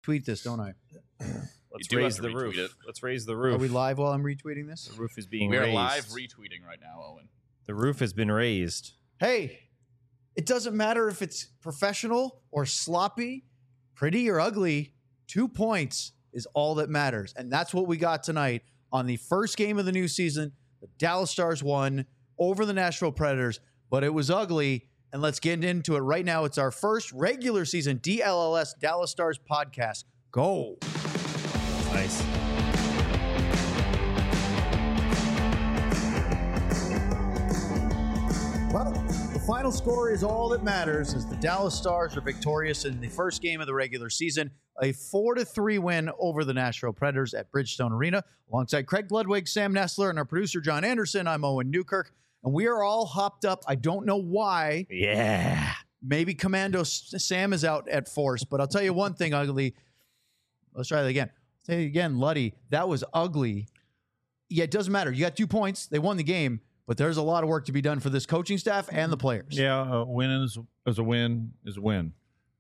retweet this, don't I? Let's raise the roof. Let's raise the roof. Are we live while I'm retweeting this? The roof is being raised. raised. We are live retweeting right now, Owen. The roof has been raised. Hey, it doesn't matter if it's professional or sloppy, pretty or ugly. 2 points is all that matters. And that's what we got tonight on the first game of the new season. The Dallas Stars won over the Nashville Predators, but it was ugly. And let's get into it right now. It's our first regular season DLLS Dallas Stars podcast. Go. Nice. Well, the final score is all that matters as the Dallas Stars are victorious in the first game of the regular season, a 4-3 win over the Nashville Predators at Bridgestone Arena. Alongside Craig Ludwig, Sam Nessler, and our producer, John Anderson, I'm Owen Newkirk, and we are all hopped up. I don't know why. Yeah. Maybe Commando Sam is out at force, but I'll tell you one thing, ugly. Let's try that again. I'll tell you again, Luddy, that was ugly. Yeah, it doesn't matter. You got 2 points. They won the game. But there's a lot of work to be done for this coaching staff and the players. Yeah, a win is a win is a win.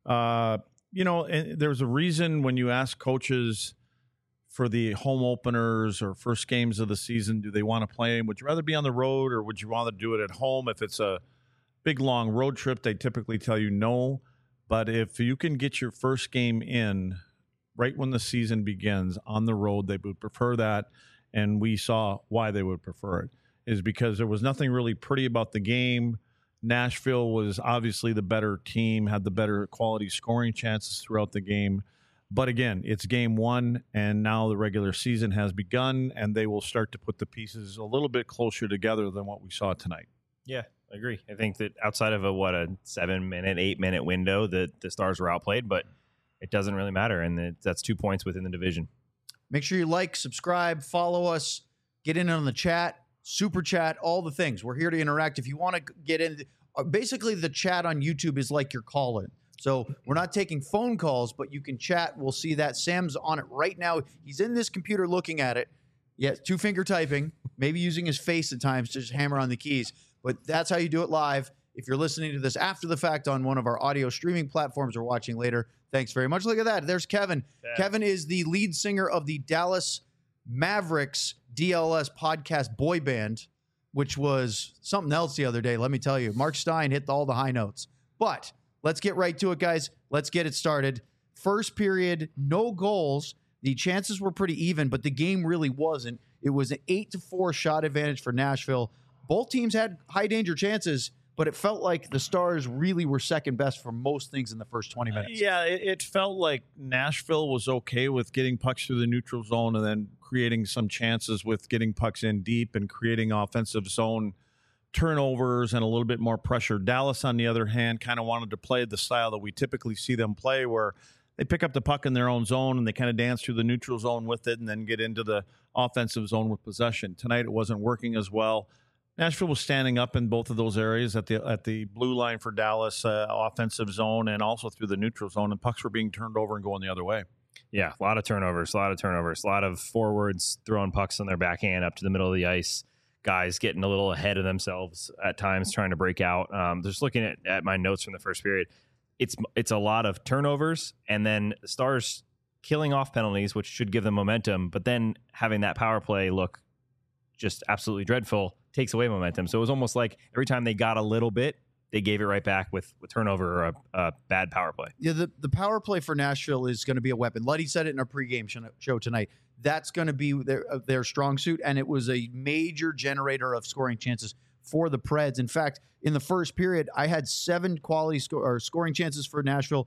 And there's a reason when you ask coaches for the home openers or first games of the season, do they want to play? Would you rather be on the road or would you want to do it at home? If it's a big, long road trip, they typically tell you no. But if you can get your first game in right when the season begins on the road, they would prefer that. And we saw why they would prefer it. Is because there was nothing really pretty about the game. Nashville was obviously the better team, had the better quality scoring chances throughout the game. But again, it's game one, and now the regular season has begun, and they will start to put the pieces a little bit closer together than what we saw tonight. Yeah, I agree. I think that outside of a 7-minute, 8-minute window, that the Stars were outplayed, but it doesn't really matter, and that's 2 points within the division. Make sure you like, subscribe, follow us, get in on the chat. Super chat, all the things. We're here to interact. If you want to get in, basically the chat on YouTube is like your call-in. So we're not taking phone calls, but you can chat. We'll see that. Sam's on it right now. He's in this computer looking at it. Yeah, 2-finger typing, maybe using his face at times to just hammer on the keys. But that's how you do it live. If you're listening to this after the fact on one of our audio streaming platforms or watching later, thanks very much. Look at that. There's Kevin. Yeah. Kevin is the lead singer of the Dallas Mavericks DLS podcast boy band, which was something else the other day. Let me tell you, Mark Stein hit all the high notes. But let's get right to it, guys. Let's get it started. First period, no goals. The chances were pretty even, but the game really wasn't. It was an 8-4 shot advantage for Nashville. Both teams had high danger chances, but it felt like the Stars really were second best for most things in the first 20 minutes. It felt like Nashville was okay with getting pucks through the neutral zone and then creating some chances with getting pucks in deep and creating offensive zone turnovers and a little bit more pressure. Dallas, on the other hand, kind of wanted to play the style that we typically see them play, where they pick up the puck in their own zone and they kind of dance through the neutral zone with it and then get into the offensive zone with possession. Tonight it wasn't working as well. Nashville was standing up in both of those areas at the blue line for Dallas, offensive zone, and also through the neutral zone, and pucks were being turned over and going the other way. Yeah, a lot of turnovers, a lot of forwards throwing pucks on their backhand up to the middle of the ice, guys getting a little ahead of themselves at times, trying to break out. Just looking at my notes from the first period, it's a lot of turnovers, and then the Stars killing off penalties, which should give them momentum, but then having that power play look just absolutely dreadful takes away momentum. So it was almost like every time they got a little bit, they gave it right back with turnover or a bad power play. Yeah, the power play for Nashville is going to be a weapon. Luddy said it in our pregame show tonight. That's going to be their strong suit, and it was a major generator of scoring chances for the Preds. In fact, in the first period, I had 7 quality scoring chances for Nashville.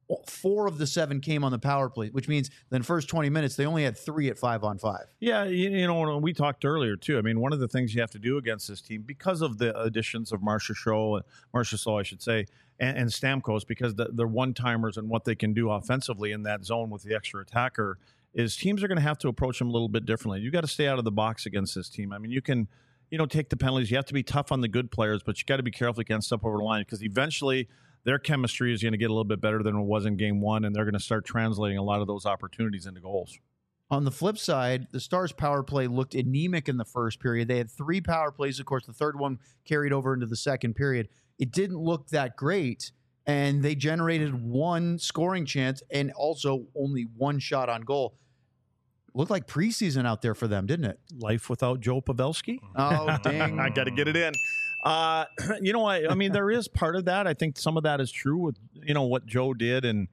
4 of the 7 came on the power play, which means in the first 20 minutes, they only had 3 at 5-on-5. Yeah, we talked earlier, too. I mean, one of the things you have to do against this team, because of the additions of Marchessault, I should say, and Stamkos, because they're one-timers and what they can do offensively in that zone with the extra attacker, is teams are going to have to approach them a little bit differently. You got to stay out of the box against this team. I mean, you can, take the penalties. You have to be tough on the good players, but you got to be careful you can't step over the line, because eventually their chemistry is going to get a little bit better than it was in game one, and they're going to start translating a lot of those opportunities into goals. On the flip side, the Stars' power play looked anemic in the first period. They had 3 power plays. Of course, the third one carried over into the second period. It didn't look that great. and they generated one scoring chance and also only one shot on goal. Looked like preseason out there for them, didn't it? Life without Joe Pavelski. Oh, dang. I got to get it in. I mean, there is part of that. I think some of that is true with, what Joe did and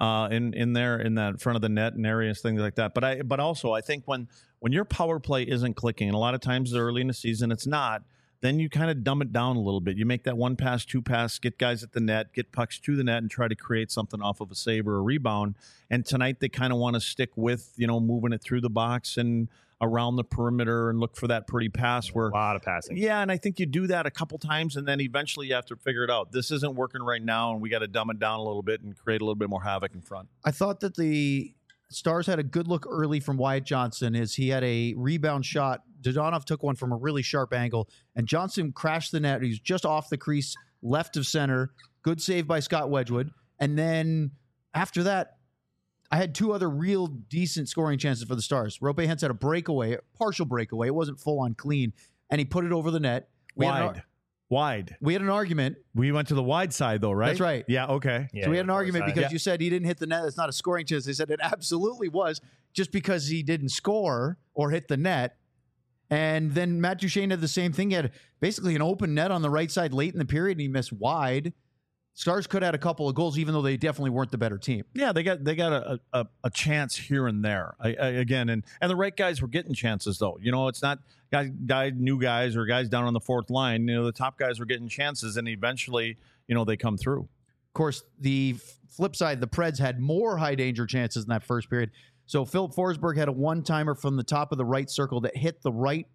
in that front of the net and areas, things like that. But also I think when your power play isn't clicking, and a lot of times early in the season it's not, then you kind of dumb it down a little bit. You make that 1 pass, 2 pass, get guys at the net, get pucks to the net, and try to create something off of a save or a rebound. And tonight they kind of want to stick with, moving it through the box and around the perimeter and look for that pretty pass where A lot of passing. Yeah, and I think you do that a couple times, and then eventually you have to figure it out. This isn't working right now, and we got to dumb it down a little bit and create a little bit more havoc in front. I thought that the Stars had a good look early from Wyatt Johnson as he had a rebound shot. Dodonov took one from a really sharp angle, and Johnson crashed the net. He was just off the crease, left of center. Good save by Scott Wedgwood. And then after that, I had 2 other real decent scoring chances for the Stars. Rope Hentz had a breakaway, a partial breakaway. It wasn't full on clean, and he put it over the net. Wide. We had an argument. We went to the wide side, though, right? That's right. Yeah, okay. Yeah, So we had an argument because Yeah. you said he didn't hit the net. It's not a scoring chance. They said it absolutely was just because he didn't score or hit the net. And then Matt Duchene had the same thing. He had basically an open net on the right side late in the period, and he missed wide. Stars could have had a couple of goals, even though they definitely weren't the better team. Yeah, they got a chance here and there. Again, and the right guys were getting chances, though. It's not new guys or guys down on the fourth line. The top guys were getting chances, and eventually, they come through. Of course, the flip side, the Preds had more high danger chances in that first period. So Philip Forsberg had a one-timer from the top of the right circle that hit the right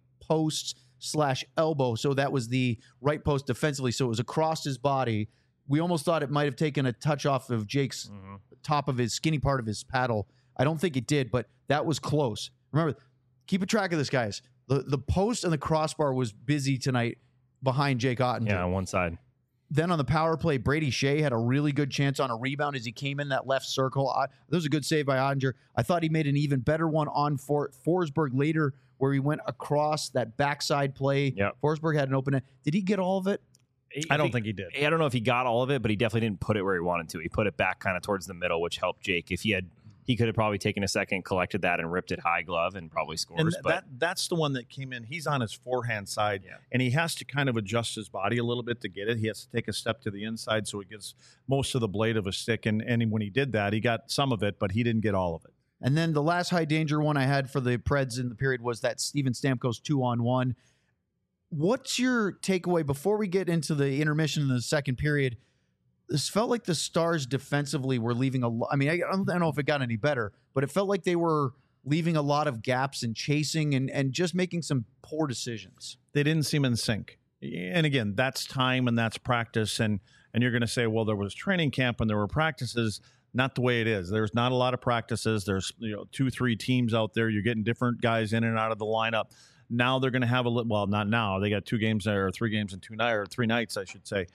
post/elbow. So that was the right post defensively. So it was across his body. We almost thought it might have taken a touch off of Jake's top of his skinny part of his paddle. I don't think it did, but that was close. Remember, keep a track of this, guys. The post and the crossbar was busy tonight behind Jake Ottinger. Yeah, on one side. Then on the power play, Brady Shea had a really good chance on a rebound as he came in that left circle. That was a good save by Ottinger. I thought he made an even better one on Forsberg later where he went across that backside play. Yep. Forsberg had an open net. Did he get all of it? I don't think he did. I don't know if he got all of it, but he definitely didn't put it where he wanted to. He put it back kind of towards the middle, which helped Jake. If he could have probably taken a second, collected that, and ripped it high glove and probably scores. And that's the one that came in. He's on his forehand side, and he has to kind of adjust his body a little bit to get it. He has to take a step to the inside so he gets most of the blade of a stick. And when he did that, he got some of it, but he didn't get all of it. And then the last high danger one I had for the Preds in the period was that Steven Stamkos 2-on-1. What's your takeaway before we get into the intermission in the second period? This felt like the Stars defensively were leaving I don't know if it got any better, but it felt like they were leaving a lot of gaps and chasing and just making some poor decisions. They didn't seem in sync. And again, that's time and that's practice. And you're going to say, well, there was training camp and there were practices. Not the way it is. There's not a lot of practices. There's 2-3 teams out there. You're getting different guys in and out of the lineup. Now they're going to have not now. They got 2 games there, or 3 games in 2 nights, or 3 nights, I should say.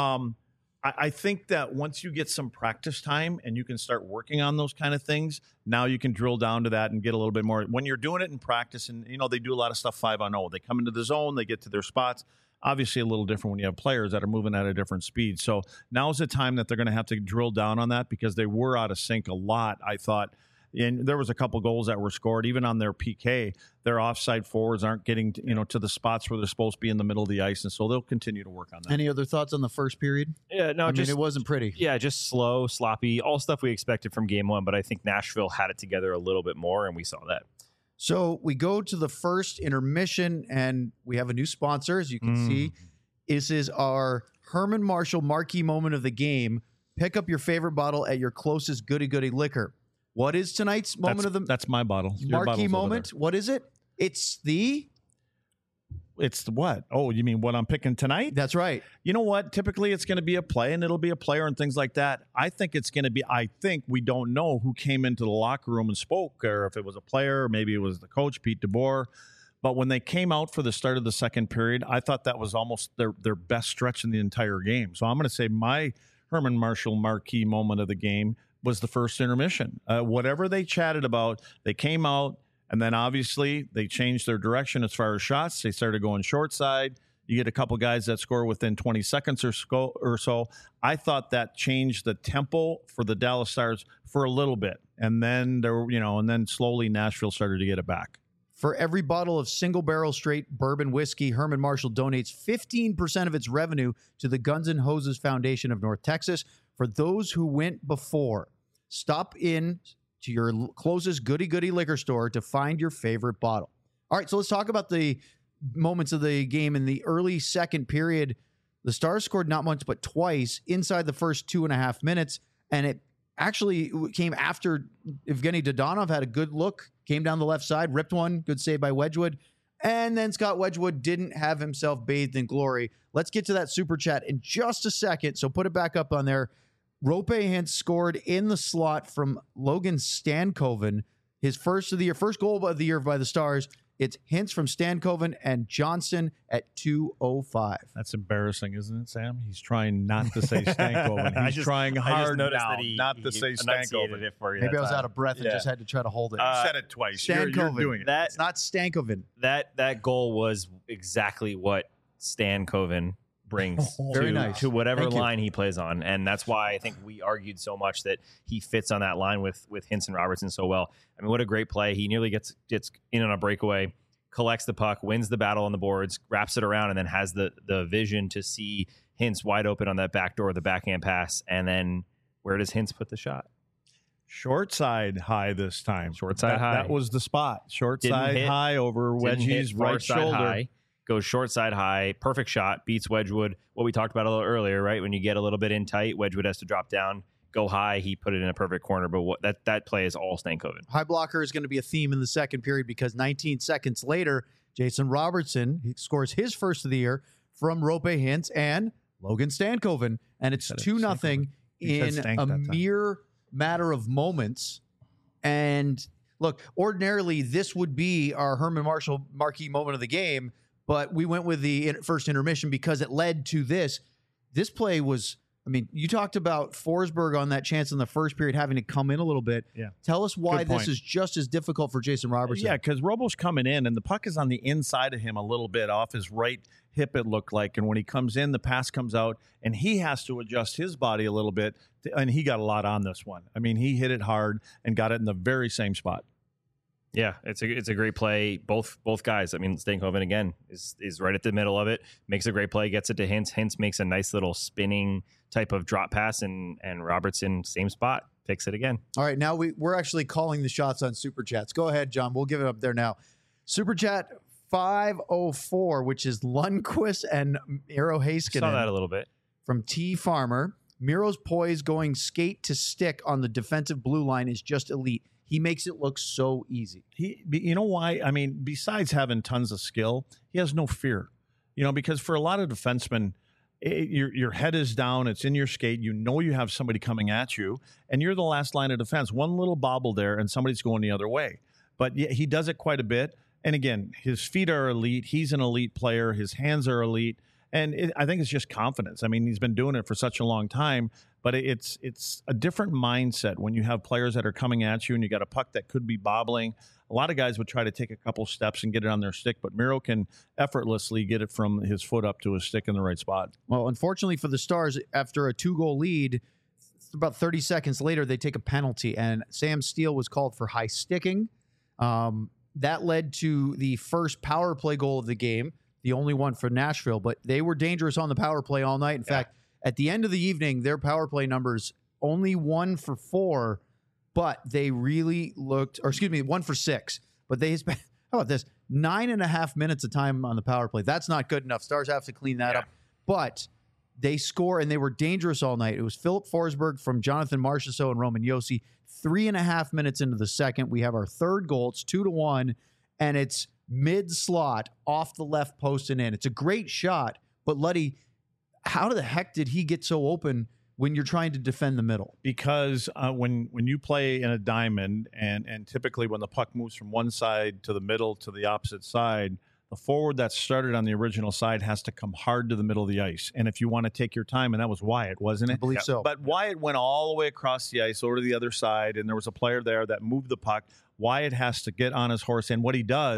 I think that once you get some practice time and you can start working on those kind of things, now you can drill down to that and get a little bit more. When you're doing it in practice, and they do a lot of stuff 5-on-0. They come into the zone, they get to their spots. Obviously, a little different when you have players that are moving at a different speed. So now's the time that they're going to have to drill down on that because they were out of sync a lot, I thought. And there was a couple goals that were scored, even on their PK. Their offside forwards aren't getting to the spots where they're supposed to be in the middle of the ice, and so they'll continue to work on that. Any other thoughts on the first period? Yeah, no, it wasn't pretty. Yeah, just slow, sloppy, all stuff we expected from game 1, but I think Nashville had it together a little bit more, and we saw that. So we go to the first intermission, and we have a new sponsor, as you can see. This is our Herman Marshall marquee moment of the game. Pick up your favorite bottle at your closest goody-goody liquor. What is tonight's moment That's my bottle. Your marquee bottle's moment? What is it? It's the what? Oh, you mean what I'm picking tonight? That's right. You know what? Typically it's going to be a play and it'll be a player and things like that. I think we don't know who came into the locker room and spoke, or if it was a player, or maybe it was the coach, Pete DeBoer. But when they came out for the start of the second period, I thought that was almost their best stretch in the entire game. So I'm going to say my Herman Marshall marquee moment of the game was the first intermission. Whatever they chatted about, they came out, and then obviously they changed their direction as far as shots. They started going short side, You get a couple guys that score within 20 seconds or so. I thought that changed the tempo for the Dallas Stars for a little bit, and then then slowly Nashville started to get it back. For every bottle of single barrel straight bourbon whiskey, Herman Marshall donates 15% of its revenue to the Guns N' Hoses Foundation of North Texas. For those who went before, stop in to your closest goody-goody liquor store to find your favorite bottle. All right, so let's talk about the moments of the game. In the early second period, the Stars scored not once but twice inside the first 2.5 minutes, and it actually came after Evgeny Dodonov had a good look, came down the left side, ripped one, good save by Wedgwood, and then Scott Wedgwood didn't have himself bathed in glory. Let's get to that super chat in just a second, so put it back up on there. Rope Hintz scored in the slot from Logan Stankoven, his first goal of the year by the Stars. It's Hintz from Stankoven and Johnson at 2:05. That's embarrassing, isn't it, Sam? He's trying not to say Stankoven. He's trying hard now not to say Stankoven. It for you Maybe I was out of breath and just had to try to hold it. You said it twice. You're doing it. It's not Stankoven. That goal was exactly what Stankoven brings Very nice. to whatever Thank you. line he plays on. And that's why I think we argued so much that he fits on that line with Hintz and Robertson so well. I mean, what a great play. He nearly gets in on a breakaway, collects the puck, wins the battle on the boards, wraps it around, and then has the vision to see Hintz wide open on that back door, the backhand pass. And then where does Hintz put the shot? Short side high this time. Short side high. That was the spot. Short Didn't side hit- high over Wedgie's right shoulder. High, goes short side high, perfect shot, beats Wedgwood. What we talked about a little earlier, right? When you get a little bit in tight, Wedgwood has to drop down, go high. He put it in a perfect corner, but that play is all Stankoven. High blocker is going to be a theme in the second period because 19 seconds later, Jason Robertson scores his first of the year from Rope Hintz and Logan Stankoven, and it's 2-0 in a mere matter of moments. And look, ordinarily this would be our Herman Marshall marquee moment of the game, but we went with the first intermission because it led to this. This play was, I mean, you talked about Forsberg on that chance in the first period having to come in a little bit. Yeah. Tell us why Good this point. is just as difficult for Jason Robertson. Yeah, because Robo's coming in, and the puck is on the inside of him a little bit, off his right hip, it looked like. And when he comes in, the pass comes out, and he has to adjust his body a little bit. And he got a lot on this one. I mean, he hit it hard and got it in the very same spot. Yeah, it's a great play. Both guys. I mean, Stankoven again is right at the middle of it, makes a great play, gets it to Hintz. Hintz makes a nice little spinning type of drop pass, and Robertson, same spot, picks it again. All right, now we're actually calling the shots on Super Chats. Go ahead, John. We'll give it up there now. Super Chat 504, which is Lundqvist and Miro Heiskanen. Saw that a little bit. From T Farmer. Miro's poise going skate to stick on the defensive blue line is just elite. He makes it look so easy. You know why? I mean, besides having tons of skill, he has no fear. Because for a lot of defensemen, your head is down, it's in your skate, you know you have somebody coming at you, and you're the last line of defense. One little bobble there, and somebody's going the other way. But yeah, he does it quite a bit. And again, his feet are elite. He's an elite player. His hands are elite. And I think it's just confidence. I mean, he's been doing it for such a long time, but it's a different mindset when you have players that are coming at you and you got a puck that could be bobbling. A lot of guys would try to take a couple steps and get it on their stick, but Miro can effortlessly get it from his foot up to his stick in the right spot. Well, unfortunately for the Stars, after a 2-goal lead, about 30 seconds later, they take a penalty, and Sam Steele was called for high sticking. That led to the first power play goal of the game, the only one for Nashville, but they were dangerous on the power play all night. In fact, at the end of the evening, their power play numbers only 1 for 4, but they really looked, 1 for 6, but they spent, how about this, 9.5 minutes of time on the power play. That's not good enough. Stars have to clean that up, but they score, and they were dangerous all night. It was Philip Forsberg from Jonathan Marchessault and Roman Josi. 3.5 minutes into the second, we have our third goal. It's 2-1, and it's mid-slot off the left post and in. It's a great shot, but Luddy, how the heck did he get so open when you're trying to defend the middle? Because when you play in a diamond, and typically when the puck moves from one side to the middle to the opposite side, the forward that started on the original side has to come hard to the middle of the ice. And if you want to take your time, and that was Wyatt, wasn't it? I believe so. But Wyatt went all the way across the ice over to the other side, and there was a player there that moved the puck. Wyatt has to get on his horse, and what he does,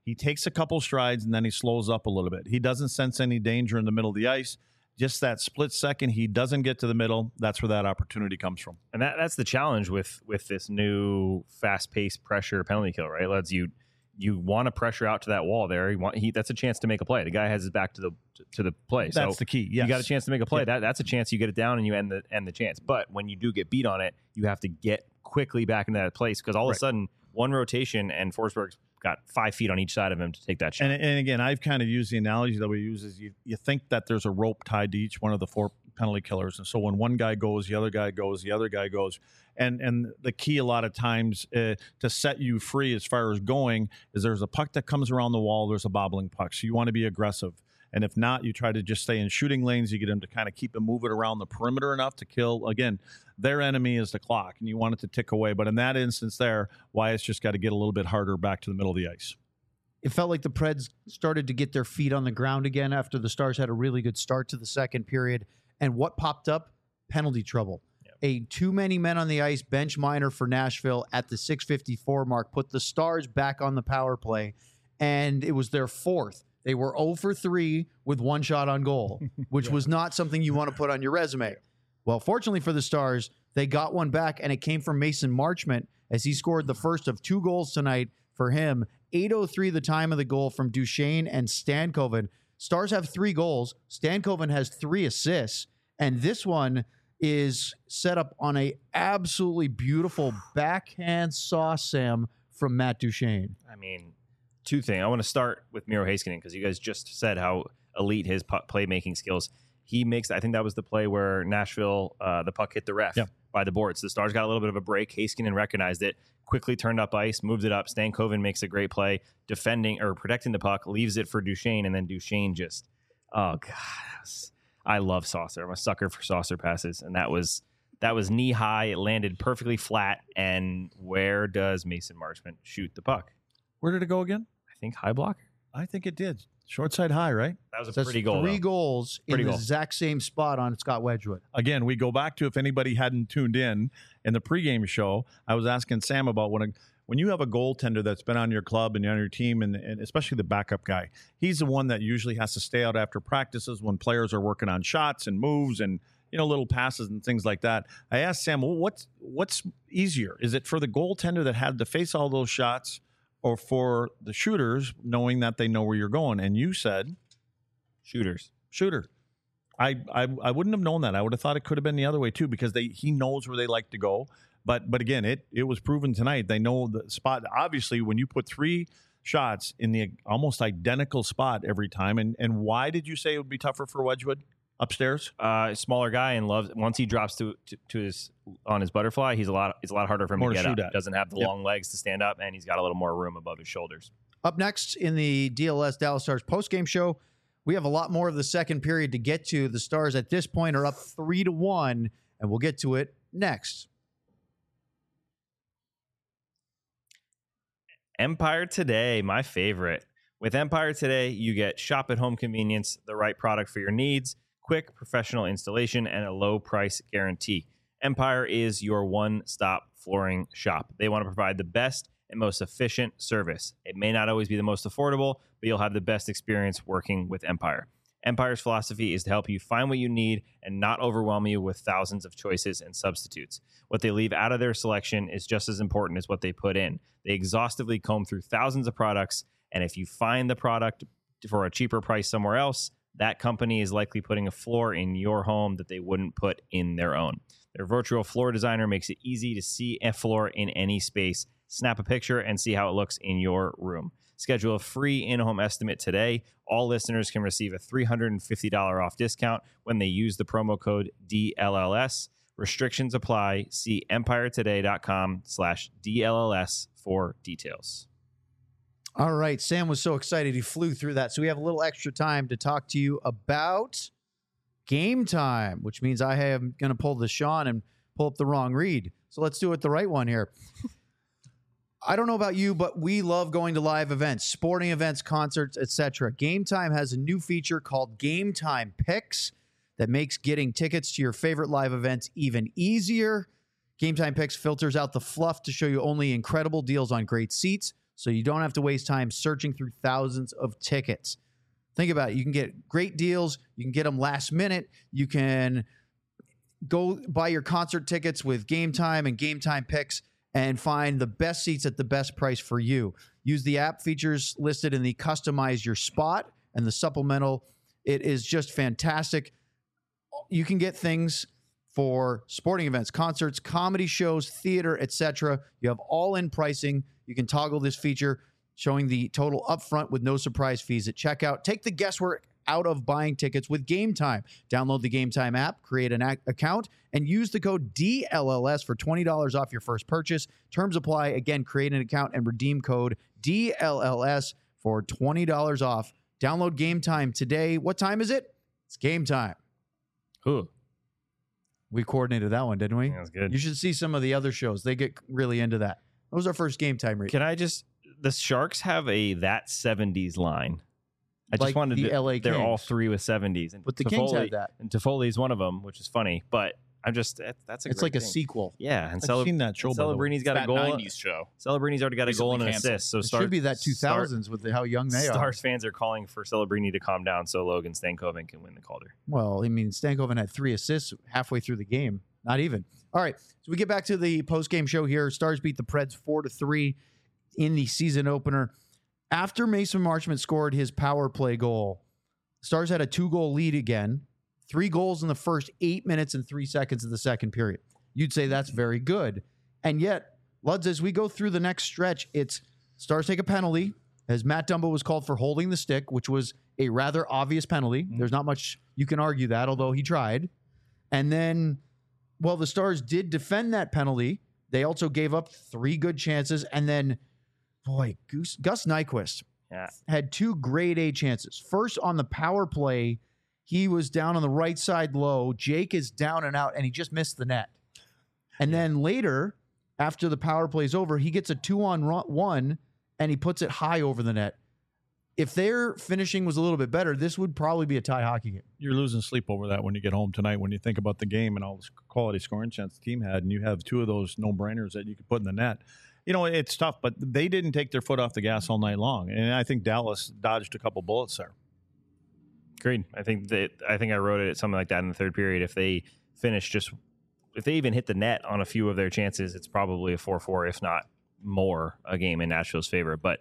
He takes a couple strides and then he slows up a little bit. He doesn't sense any danger in the middle of the ice. Just that split second, he doesn't get to the middle. That's where that opportunity comes from. And that's the challenge with this new fast-paced pressure penalty kill, right? Lads, you want to pressure out to that wall there. That's a chance to make a play. The guy has his back to the play. That's the key. Yes. You got a chance to make a play. Yeah. That's a chance you get it down and you end the chance. But when you do get beat on it, you have to get quickly back into that place because all of a sudden one rotation and Forsberg's got 5 feet on each side of him to take that shot. And again, I've kind of used the analogy that we use is you think that there's a rope tied to each one of the 4 penalty killers. And so when one guy goes, the other guy goes, the other guy goes. And the key a lot of times to set you free as far as going is there's a puck that comes around the wall, there's a bobbling puck. So you want to be aggressive. And if not, you try to just stay in shooting lanes. You get them to kind of keep it moving around the perimeter enough to kill. Again, their enemy is the clock, and you want it to tick away. But in that instance there, Wyatt's just got to get a little bit harder back to the middle of the ice. It felt like the Preds started to get their feet on the ground again after the Stars had a really good start to the second period. And what popped up? Penalty trouble. Yep. A too many men on the ice bench minor for Nashville at the 6:54 mark put the Stars back on the power play, and it was their 4th. They were 0 for 3 with 1 shot on goal, which was not something you want to put on your resume. Well, fortunately for the Stars, they got one back, and it came from Mason Marchment as he scored the first of 2 goals tonight for him. 8:03 the time of the goal from Duchesne and Stankoven. Stars have 3 goals. Stankoven has 3 assists, and this one is set up on a absolutely beautiful backhand sauce, Sam, from Matt Duchesne. I mean, 2 things. I want to start with Miro Heiskanen because you guys just said how elite his playmaking skills. He makes, I think that was the play where Nashville, the puck hit the ref by the boards. The Stars got a little bit of a break. Heiskanen recognized it, quickly turned up ice, moved it up. Stankoven makes a great play, defending or protecting the puck, leaves it for Duchesne, and then Duchesne just, oh God, I love Saucer. I'm a sucker for Saucer passes, and that was knee high. It landed perfectly flat, and where does Mason Marchment shoot the puck? Where did it go again? I think high block. I think it did. Short side high, right? That was a That's pretty goal. 3 though. goals in Pretty the goal. exact same spot on Scott Wedgwood. Again, we go back to if anybody hadn't tuned in the pregame show, I was asking Sam about when you have a goaltender that's been on your club and on your team, and especially the backup guy, he's the one that usually has to stay out after practices when players are working on shots and moves and little passes and things like that. I asked Sam, well, what's easier? Is it for the goaltender that had to face all those shots, or for the shooters knowing that they know where you're going? And you said shooter. I wouldn't have known that. I would have thought it could have been the other way too, because he knows where they like to go. But again, it was proven tonight. They know the spot. Obviously, when you put 3 shots in the almost identical spot every time, and why did you say it would be tougher for Wedgwood upstairs? Smaller guy, and once he drops to his on his butterfly, it's a lot harder for him More to to get shoot up. at. Doesn't have the long legs to stand up, and he's got a little more room above his shoulders. Up next in the DLS Dallas Stars postgame show, we have a lot more of the second period to get to. The Stars at this point are up 3-1, and we'll get to it next. Empire Today, my favorite. With Empire Today, you get shop at home convenience, the right product for your needs, quick professional installation, and a low price guarantee. Empire is your one-stop flooring shop. They want to provide the best and most efficient service. It may not always be the most affordable, but you'll have the best experience working with Empire. Empire's philosophy is to help you find what you need and not overwhelm you with thousands of choices and substitutes. What they leave out of their selection is just as important as what they put in. They exhaustively comb through thousands of products, and if you find the product for a cheaper price somewhere else, that company is likely putting a floor in your home that they wouldn't put in their own. Their virtual floor designer makes it easy to see a floor in any space. Snap a picture and see how it looks in your room. Schedule a free in-home estimate today. All listeners can receive a $350 off discount when they use the promo code DLLS. Restrictions apply. See empiretoday.com/DLLS for details. All right. Sam was so excited he flew through that. So we have a little extra time to talk to you about Game Time, which means I am going to pull the Sean and pull up the wrong read. So let's do it the right one here. I don't know about you, but we love going to live events, sporting events, concerts, etc. Game Time has a new feature called Game Time Picks that makes getting tickets to your favorite live events even easier. Game Time Picks filters out the fluff to show you only incredible deals on great seats, so you don't have to waste time searching through thousands of tickets. Think about it. You can get great deals. You can get them last minute. You can go buy your concert tickets with Game Time and Game Time Picks and find the best seats at the best price for you. Use the app features listed in the Customize Your Spot and the supplemental. It is just fantastic. You can get things for sporting events, concerts, comedy shows, theater, etc. You have all-in pricing. You can toggle this feature, showing the total upfront with no surprise fees at checkout. Take the guesswork out of buying tickets with Game Time. Download the Game Time app, create an account, and use the code DLLS for $20 off your first purchase. Terms apply. Again, create an account and redeem code DLLS for $20 off. Download Game Time today. What time is it? It's game time. Ooh, We coordinated that one, didn't we? that's good. You should see some of the other shows. They get really into that. That was our first Game Time read. Can I just? The Sharks have a that 70s line. I Like just wanted the to. LA They're all Kings. three with 70s, and But the Kings Toffoli- have that. and Toffoli's one of them, which is funny. But I'm just that's a It's great like a thing. sequel. Yeah, and I've seen that show, by the way. Celebrini's got a That goal. 90s show. Celebrini's already got a goal and an Recently assist. So It should be that 2000s with how young they are. Stars fans are calling for Celebrini to calm down so Logan Stankoven can win the Calder. Well, I mean, Stankoven had 3 assists halfway through the game. Not even. All right. So we get back to the post-game show here. Stars beat the Preds 4-3 in the season opener. After Mason Marchment scored his power play goal, Stars had a 2-goal lead again. 3 goals in the first 8 minutes and 3 seconds of the second period. You'd say that's very good. And yet, Luds, as we go through the next stretch, it's Stars take a penalty, as Matt Dumba was called for holding the stick, which was a rather obvious penalty. There's not much you can argue that, although he tried. And then, well, the Stars did defend that penalty. They also gave up 3 good chances. And then, boy, Gus Nyquist had 2 grade A chances. First, on the power play, he was down on the right side low. Jake is down and out, and he just missed the net. And then later, after the power play is over, he gets a 2-on-1, and he puts it high over the net. If their finishing was a little bit better, this would probably be a tie hockey game. You're losing sleep over that when you get home tonight, when you think about the game and all the quality scoring chance the team had, and you have 2 of those no-brainers that you could put in the net. You know, it's tough, but they didn't take their foot off the gas all night long, and I think Dallas dodged a couple bullets there. Agreed. I think I wrote it something like that in the third period. If they finish if they even hit the net on a few of their chances, it's probably a 4-4, if not more, a game in Nashville's favor. But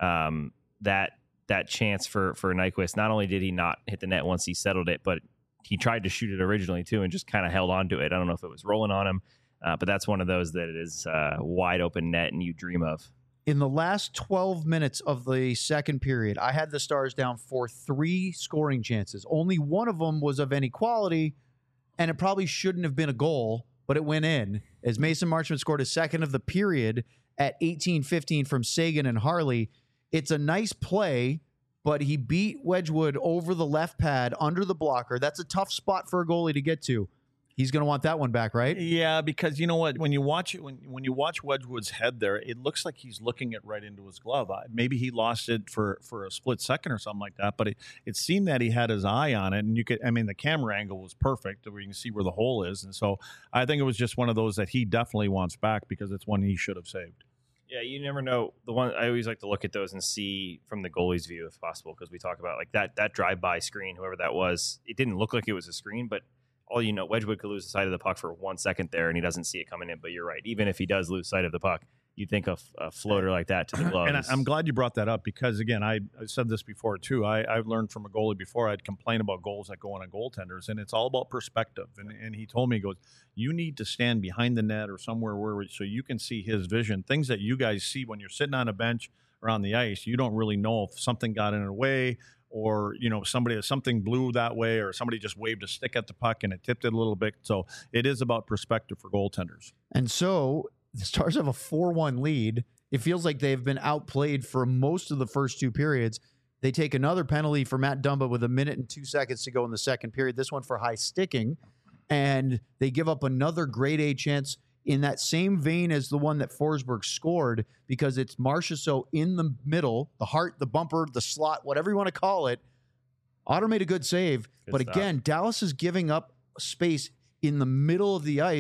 that chance for Nyquist, not only did he not hit the net once he settled it, but he tried to shoot it originally too and just kind of held on to it. I don't know if it was rolling on him, but that's one of those that it is wide open net and you dream of. In the last 12 minutes of the second period, I had the Stars down for 3 scoring chances. Only one of them was of any quality, and it probably shouldn't have been a goal, but it went in as Mason Marchment scored his second of the period at 18:15 from Sagan and Harley. It's a nice play, but he beat Wedgwood over the left pad under the blocker. That's a tough spot for a goalie to get to. He's going to want that one back, right? Yeah, because you know what? When you watch it, when you watch Wedgwood's head there, it looks like he's looking it right into his glove. Maybe he lost it for a split second or something like that, but it seemed that he had his eye on it, and the camera angle was perfect where you can see where the hole is, and so I think it was just one of those that he definitely wants back because it's one he should have saved. Yeah, you never know. The one I always like to look at those and see from the goalie's view if possible, because we talk about like that drive-by screen, whoever that was. It didn't look like it was a screen, but all you know, Wedgwood could lose the sight of the puck for 1 second there, and he doesn't see it coming in. But you're right. Even if he does lose sight of the puck, you'd think a floater like that to the glove. And I'm glad you brought that up because, again, I said this before, too. I've learned from a goalie before. I'd complain about goals that go on goaltenders, and it's all about perspective. And he told me, he goes, you need to stand behind the net or somewhere so you can see his vision. Things that you guys see when you're sitting on a bench or on the ice, you don't really know if something got in the way or, you know, something blew that way or somebody just waved a stick at the puck and it tipped it a little bit. So it is about perspective for goaltenders. And so the Stars have a 4-1 lead. It feels like they've been outplayed for most of the first 2 periods. They take another penalty for Matt Dumba with 1 minute and 2 seconds to go in the second period. This one for high sticking. And they give up another grade A chance in that same vein as the one that Forsberg scored because it's Marchessault in the middle, the heart, the bumper, the slot, whatever you want to call it. Otter made a good save. Good but stuff. again, Dallas is giving up space in the middle of the ice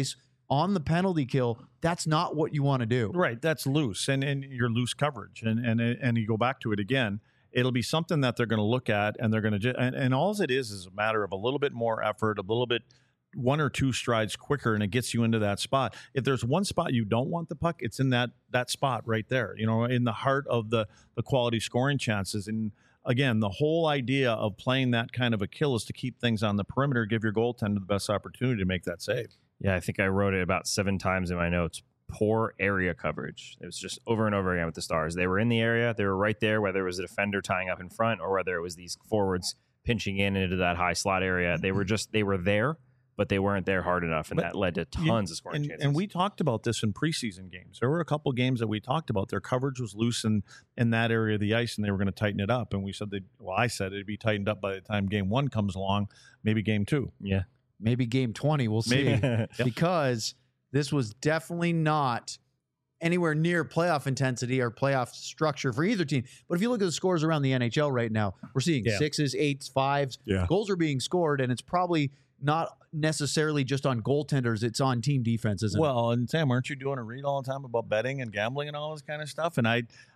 on the penalty kill, that's not what you want to do. Right, that's loose, and you're loose coverage, and you go back to it again. It'll be something that they're going to look at, and they're going to and all it is a matter of a little bit more effort, a little bit 1 or 2 strides quicker, and it gets you into that spot. If there's one spot you don't want the puck, it's in that spot right there, in the heart of the quality scoring chances. And again, the whole idea of playing that kind of a kill is to keep things on the perimeter, give your goaltender the best opportunity to make that save. Yeah, I think I wrote it about 7 times in my notes. Poor area coverage. It was just over and over again with the Stars. They were in the area. They were right there, whether it was a defender tying up in front or whether it was these forwards pinching in into that high slot area. They were there, but they weren't there hard enough, and that led to tons of scoring chances. And we talked about this in preseason games. There were a couple games that we talked about. Their coverage was loose in that area of the ice, and they were going to tighten it up. And we said I said it'd be tightened up by the time game 1 comes along, maybe game 2. Yeah. Maybe game 20, we'll see. Because this was definitely not anywhere near playoff intensity or playoff structure for either team. But if you look at the scores around the NHL right now, we're seeing 6s, 8s, 5s. Yeah. Goals are being scored, and it's probably not necessarily just on goaltenders. It's on team defense, isn't it? Well, and Sam, aren't you doing a read all the time about betting and gambling and all this kind of stuff? And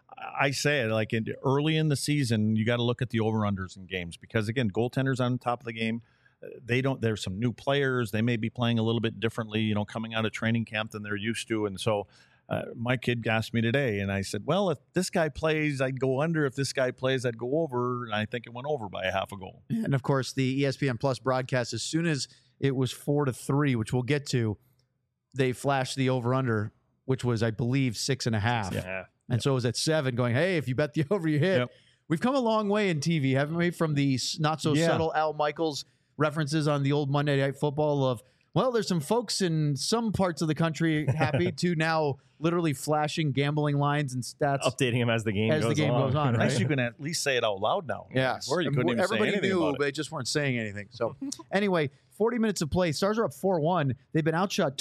I say it like early in the season, you got to look at the over-unders in games because, again, goaltenders on top of the game. There's some new players. They may be playing a little bit differently, coming out of training camp than they're used to. And so my kid asked me today, and I said, well, if this guy plays, I'd go under. If this guy plays, I'd go over. And I think it went over by a half a goal. And of course, the ESPN Plus broadcast, as soon as it was 4-3, which we'll get to, they flashed the over under, which was, I believe, 6.5. Yeah. And so it was at 7 going, hey, if you bet the over, you hit. Yep. We've come a long way in TV, haven't we? From the not so subtle Al Michaels references on the old Monday Night Football of, well, there's some folks in some parts of the country happy to now literally flashing gambling lines and stats. Updating them as the game goes on. Right? Nice you can at least say it out loud now. Yeah. Before you couldn't even say Everybody anything knew, about it. but they just weren't saying anything. So anyway, 40 minutes of play. Stars are up 4-1. They've been outshot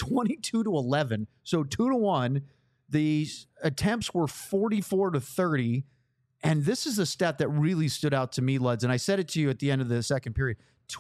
22-11. So 2-1. The attempts were 44-30. And this is a stat that really stood out to me, Luds, and I said it to you at the end of the second period.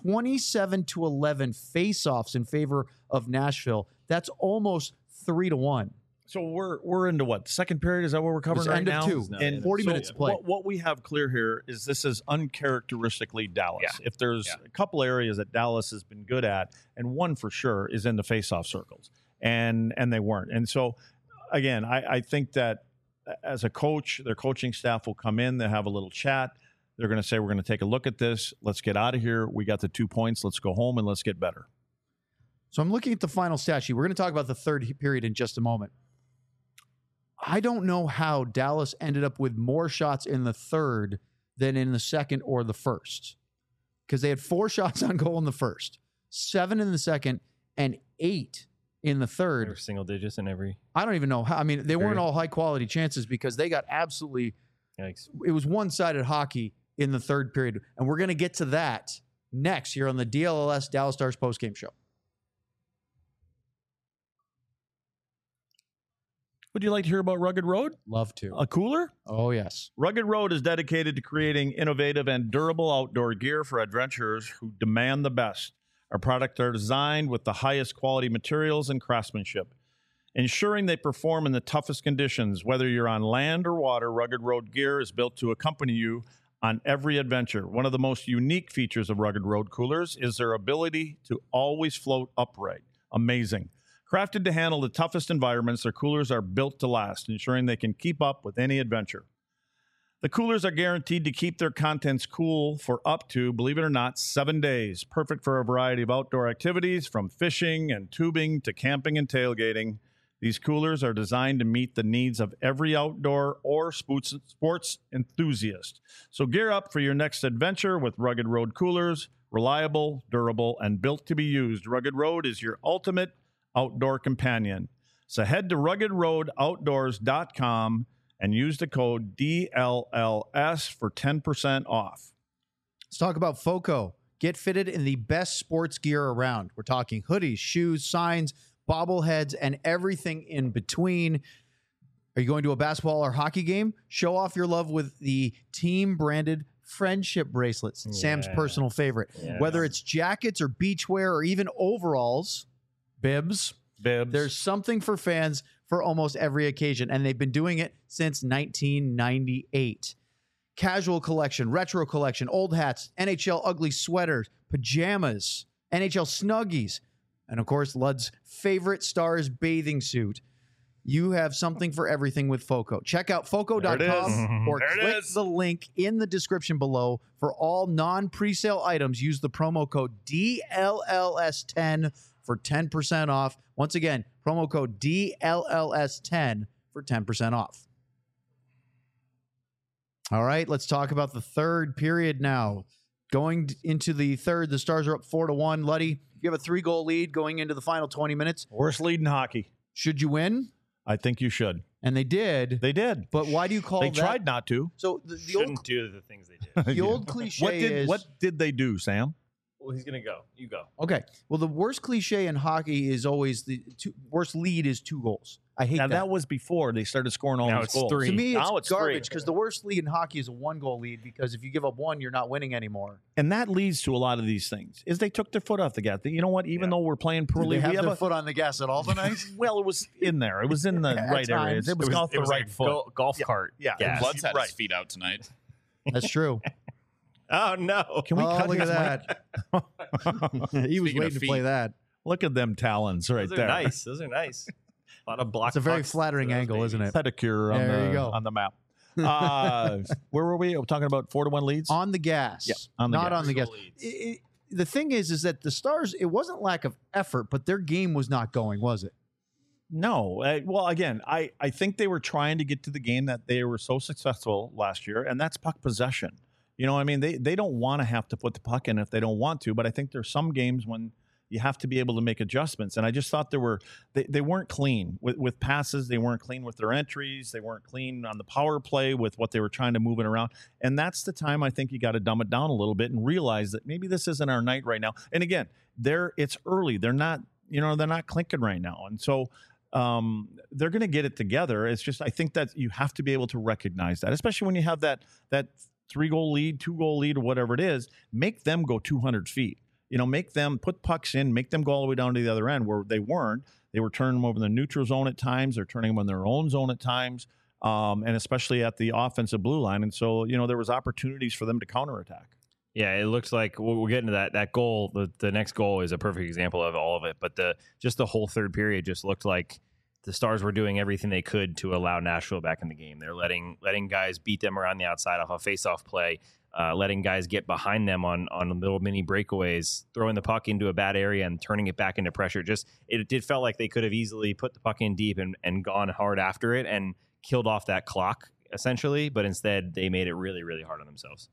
27-11 face-offs in favor of Nashville. That's almost 3-1. So we're into what? Second period? Is that what we're covering right now? End of 2. And 40 minutes to play. What we have clear here is this is uncharacteristically Dallas. Yeah. If there's a couple areas that Dallas has been good at, and one for sure is in the face-off circles, and they weren't. And so, again, I think that as a coach, their coaching staff will come in, they'll have a little chat. They're going to say, we're going to take a look at this. Let's get out of here. We got the 2 points. Let's go home and let's get better. So I'm looking at the final stat sheet. We're going to talk about the third period in just a moment. I don't know how Dallas ended up with more shots in the third than in the second or the first, because they had 4 shots on goal in the first, 7 in the second, and 8 in the third. They were single digits in every. I don't even know how. I mean, they weren't all high quality chances because they got absolutely. Yikes. It was one-sided hockey in the third period, and we're going to get to that next here on the DLLS Dallas Stars postgame show. Would you like to hear about Rugged Road? Love to. A cooler? Oh, yes. Rugged Road is dedicated to creating innovative and durable outdoor gear for adventurers who demand the best. Our products are designed with the highest quality materials and craftsmanship, ensuring they perform in the toughest conditions. Whether you're on land or water, Rugged Road gear is built to accompany you on every adventure. One of the most unique features of Rugged Road coolers is their ability to always float upright. Amazing. Crafted to handle the toughest environments, their coolers are built to last, ensuring they can keep up with any adventure. The coolers are guaranteed to keep their contents cool for up to, believe it or not, 7 days. Perfect for a variety of outdoor activities, from fishing and tubing to camping and tailgating. These coolers are designed to meet the needs of every outdoor or sports enthusiast. So gear up for your next adventure with Rugged Road coolers. Reliable, durable, and built to be used. Rugged Road is your ultimate outdoor companion. So head to ruggedroadoutdoors.com and use the code DLLS for 10% off. Let's talk about FOCO. Get fitted in the best sports gear around. We're talking hoodies, shoes, signs, bobbleheads, and everything in between. Are you going to a basketball or hockey game? Show off your love with the team-branded friendship bracelets. Yeah. Sam's personal favorite. Yeah. Whether it's jackets or beachwear or even overalls, bibs, Bibs. There's something for fans for almost every occasion, and they've been doing it since 1998. Casual collection, retro collection, old hats, NHL ugly sweaters, pajamas, NHL Snuggies, and of course, Lud's favorite Stars bathing suit. You have something for everything with FOCO. Check out FOCO.com or click the link in the description below. For all non-presale items, use the promo code DLLS10 for 10% off. Once again, promo code DLLS10 for 10% off. All right, let's talk about the third period now. Going into the third, the Stars are up 4-1. Luddy, you have a 3-goal lead going into the final 20 minutes. Worst lead in hockey. Should you win? I think you should. And they did. They did. But why do you call They that? tried not to. So the Shouldn't old, do the things they did. the old cliche What did they do, Sam? Well, he's gonna go. You go. Okay. Well, the worst cliche in hockey is always worst lead is 2 goals. I hate Now, that. that was before they started scoring all Now those it's goals. 3. To me, Now it's it's 3. garbage because the worst lead in hockey is a 1-goal lead because if you give up 1, you're not winning anymore. And that leads to a lot of these things. Is they took their foot off the gas. You know what? Even though we're playing Do poorly, they have we have their a foot on the gas at all tonight? well, it was in there. It was in the right areas. times. It was off the right like foot. golf cart. Yeah. gas. Blood's had Right. his feet out tonight. That's true. Oh no! Can we cut look his at that. He was Speaking of waiting to play feet. that. Look at them talons right Those are there. nice. Those are nice. A lot of block. It's a very pucks flattering for those angle, isn't babies. it? Pedicure There you go. on the map. Where were we? We're talking about 4-1 leads. On the gas. Yeah, on the not gas. on the gas. 3-goal leads. The thing is that the Stars, it wasn't lack of effort, but their game was not going, was it? No. Well, again, I think they were trying to get to the game that they were so successful last year, and that's puck possession. You know, I mean, they don't want to have to put the puck in if they don't want to, but I think there's some games when you have to be able to make adjustments. And I just thought they weren't clean with passes. They weren't clean with their entries. They weren't clean on the power play with what they were trying to move it around. And that's the time I think you got to dumb it down a little bit and realize that maybe this isn't our night right now. And again, it's early. They're not clinking right now. And so they're going to get it together. It's just, I think that you have to be able to recognize that, especially when you have that 3-goal lead, 2-goal lead, or whatever it is. Make them go 200 feet. You know, make them put pucks in, make them go all the way down to the other end where they weren't. They were turning them over in the neutral zone at times. They're turning them in their own zone at times, and especially at the offensive blue line. And so, you know, there was opportunities for them to counterattack. Yeah, it looks like we'll get into that goal. The next goal is a perfect example of all of it. But the whole third period just looked like the Stars were doing everything they could to allow Nashville back in the game. They're letting guys beat them around the outside off a face-off play, letting guys get behind them on little mini breakaways, throwing the puck into a bad area and turning it back into pressure. It did felt like they could have easily put the puck in deep and gone hard after it and killed off that clock, essentially. But instead, they made it really, really hard on themselves.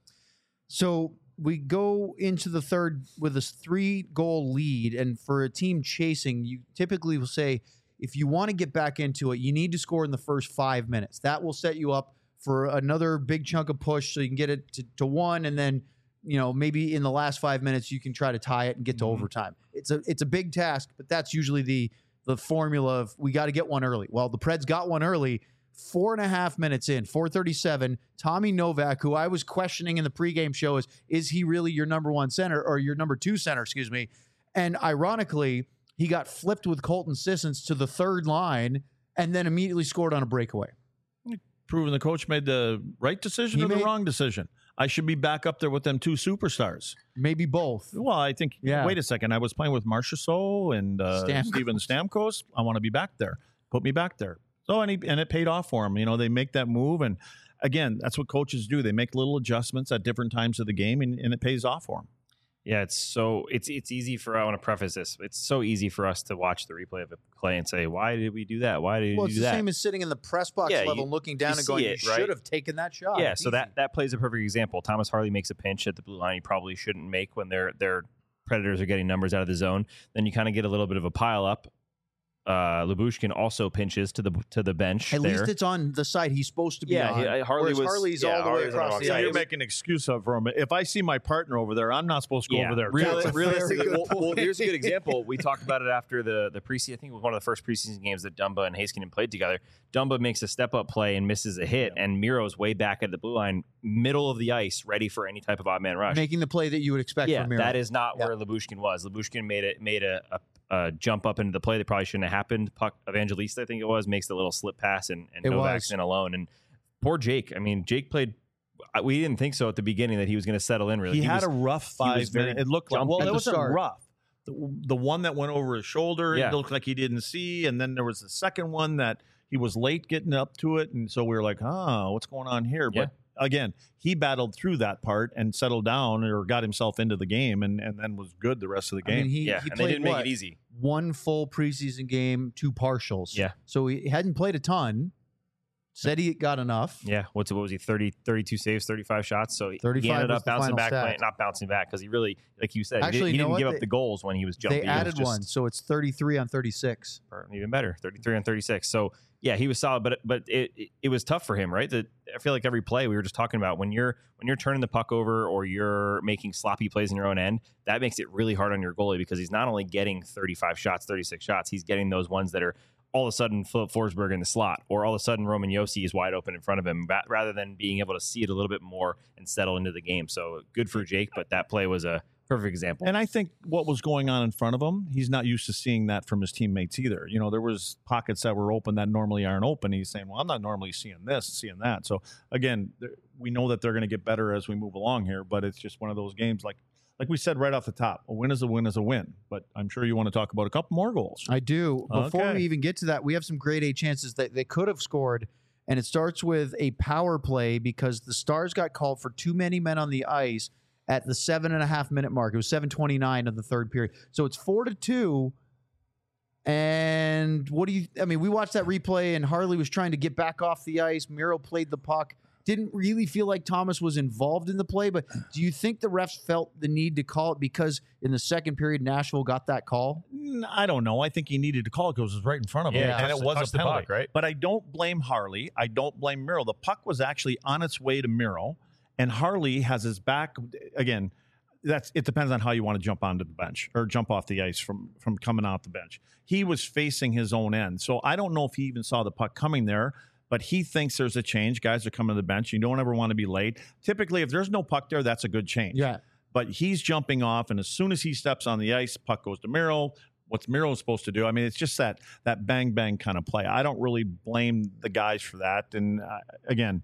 So we go into the third with a 3-goal lead. And for a team chasing, you typically will say, if you want to get back into it, you need to score in the first 5 minutes. That will set you up for another big chunk of push so you can get it to 1. And then, you know, maybe in the last 5 minutes, you can try to tie it and get to overtime. It's a big task, but that's usually the formula of we got to get one early. Well, the Preds got one early. 4.5 minutes in, 4:37. Tommy Novak, who I was questioning in the pregame show, is he really your number 1 center or your number 2 center? Excuse me. And ironically, he got flipped with Colton Sissons to the third line and then immediately scored on a breakaway. Proving the coach made the right decision or the wrong decision. I should be back up there with them 2 superstars. Maybe both. Well, I think, Yeah. Wait a second. I was playing with Marchessault and Steven Stamkos. I want to be back there. Put me back there. So, and it paid off for him. You know, they make that move. And again, that's what coaches do. They make little adjustments at different times of the game, and it pays off for them. Yeah, it's easy I want to preface this. It's so easy for us to watch the replay of a play and say, why did we do that? Why did Well, we it's do the that? same as sitting in the press box level, looking down and going, see it, you right? should have taken that shot. Yeah, It's so easy. that plays a perfect example. Thomas Harley makes a pinch at the blue line he probably shouldn't make when their Predators are getting numbers out of the zone. Then you kind of get a little bit of a pile up. Lyubushkin also pinches to the bench. At there. least it's on the side he's supposed to be on. Harley whereas Harley's all the way Harley's on across wrong the side. ice. You're making an excuse up for him. If I see my partner over there, I'm not supposed to go over there. That's a very Realistically, good well, point. here's a good example. We talked about it after the preseason. I think it was one of the first preseason games that Dumba and Heiskanen played together. Dumba makes a step-up play and misses a hit, and Miro's way back at the blue line, middle of the ice, ready for any type of odd man rush. Making the play that you would expect from Miro. that is not where Lyubushkin was. Lyubushkin made a jump up into the play that probably shouldn't have happened. Puck Evangelista, I think it was, makes the little slip pass and Novak's in alone. And poor Jake. I mean, Jake played. We didn't think so at the beginning that he was going to settle in. Really, he had a rough 5 minutes. It looked like it wasn't rough. The one that went over his shoulder, it looked like he didn't see, and then there was the second one that he was late getting up to it, and so we were like, "Oh, what's going on here?" But again, he battled through that part and settled down or got himself into the game, and then was good the rest of the game. I mean, he and played, they didn't make it easy. 1 full preseason game, 2 partials. Yeah, so he hadn't played a ton. Said he got enough. Yeah. What was he? 32 saves, 35 shots. So he 35 ended was up the bouncing final back, stat. not bouncing back because he really, like you said, Actually, he you know didn't give what? up the goals when he was jumping. They added one, so it's 33 on 36. Even better, 33 on 36. So yeah, he was solid, but it was tough for him, right? That I feel like every play we were just talking about when you're turning the puck over or you're making sloppy plays in your own end, that makes it really hard on your goalie because he's not only getting 35 shots, 36 shots, he's getting those ones that are all of a sudden Philip Forsberg in the slot, or all of a sudden Roman Josi is wide open in front of him, rather than being able to see it a little bit more and settle into the game. So good for Jake, but that play was a perfect example. And I think what was going on in front of him, he's not used to seeing that from his teammates either. You know, there was pockets that were open that normally aren't open. He's saying, well, I'm not normally seeing this, seeing that. So again, we know that they're going to get better as we move along here, but it's just one of those games like we said right off the top, a win is a win is a win. But I'm sure you want to talk about a couple more goals. I do. Before we even get to that, we have some grade A chances that they could have scored, and it starts with a power play because the Stars got called for too many men on the ice at the 7.5 minute mark. It was 7:29 of the third period. So it's 4-2. And we watched that replay, and Harley was trying to get back off the ice. Miro played the puck. Didn't really feel like Thomas was involved in the play, but do you think the refs felt the need to call it because in the second period Nashville got that call? I don't know. I think he needed to call it because it was right in front of him, and it was a penalty. Puck, right? But I don't blame Harley. I don't blame Miro. The puck was actually on its way to Miro, and Harley has his back. Again, it depends on how you want to jump onto the bench or jump off the ice from coming out the bench. He was facing his own end, so I don't know if he even saw the puck coming there. But he thinks there's a change. Guys are coming to the bench. You don't ever want to be late. Typically, if there's no puck there, that's a good change. Yeah. But he's jumping off, and as soon as he steps on the ice, puck goes to Miro. What's Miro supposed to do? I mean, it's just that bang-bang kind of play. I don't really blame the guys for that. And, again,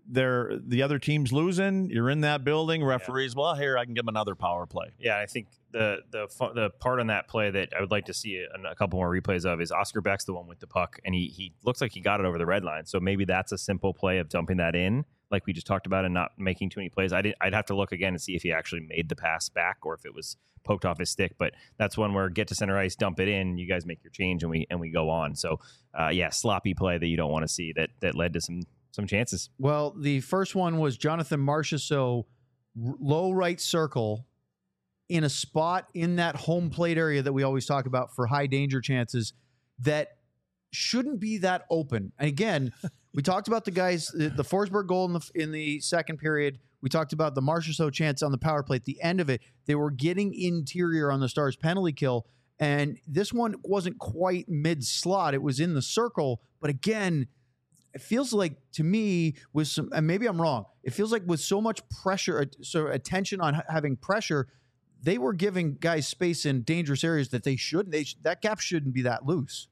the other team's losing. You're in that building. Referees, well, here, I can give him another power play. Yeah, I think the part on that play that I would like to see a couple more replays of is Oscar Beck's the one with the puck, and he looks like he got it over the red line. So maybe that's a simple play of dumping that in, like we just talked about, and not making too many plays. I'd have to look again and see if he actually made the pass back or if it was poked off his stick. But that's one where get to center ice, dump it in, you guys make your change, and we go on. So sloppy play that you don't want to see that led to some chances. Well, the first one was Jonathan Marchessault, low right circle, in a spot in that home plate area that we always talk about for high danger chances that shouldn't be that open. And again, we talked about the guys, the Forsberg goal in the second period. We talked about the Marchessault chance on the power play. At the end of it, they were getting interior on the Stars penalty kill. And this one wasn't quite mid-slot. It was in the circle. But again, it feels like to me with some, and maybe I'm wrong, it feels like with so much pressure, so attention on having pressure, they were giving guys space in dangerous areas that they shouldn't. That gap shouldn't be that loose.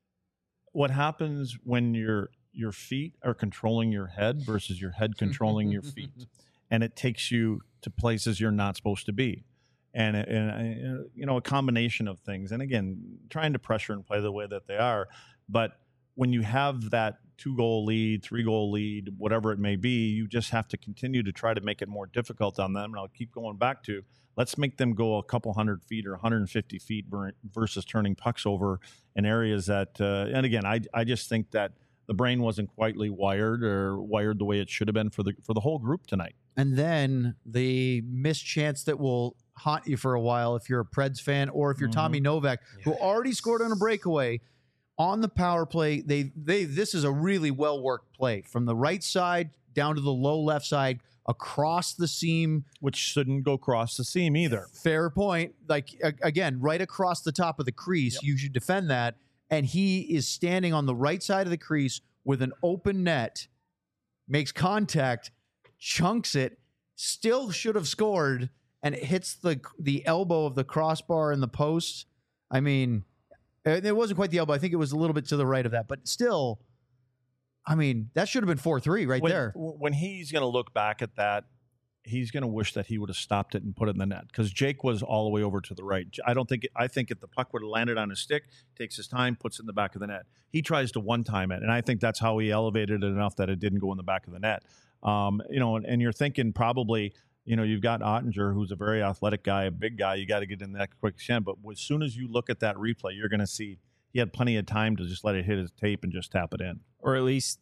What happens when your feet are controlling your head versus your head controlling your feet, and it takes you to places you're not supposed to be, and a combination of things. And again, trying to pressure and play the way that they are, but when you have that 2-goal lead, 3-goal lead, whatever it may be, you just have to continue to try to make it more difficult on them. And I'll keep going back to, let's make them go a couple 100 feet or 150 feet versus turning pucks over in areas that, and again, I just think that the brain wasn't quite wired the way it should have been for the whole group tonight. And then the missed chance that will haunt you for a while if you're a Preds fan or if you're Tommy Novak, who already scored on a breakaway. On the power play, this is a really well-worked play. From the right side down to the low left side, across the seam. Which shouldn't go across the seam either. Fair point. Like, again, right across the top of the crease, you should defend that. And he is standing on the right side of the crease with an open net, makes contact, chunks it, still should have scored, and it hits the elbow of the crossbar in the post. I mean, it wasn't quite the elbow. I think it was a little bit to the right of that, but still, I mean, that should have been 4-3 right there. When he's going to look back at that, he's going to wish that he would have stopped it and put it in the net because Jake was all the way over to the right. I think if the puck would have landed on his stick, takes his time, puts it in the back of the net. He tries to one-time it, and I think that's how he elevated it enough that it didn't go in the back of the net. And you're thinking probably, you've got Ottinger, who's a very athletic guy, a big guy. You got to get in that quick shot. But as soon as you look at that replay, you're going to see he had plenty of time to just let it hit his tape and just tap it in. Or at least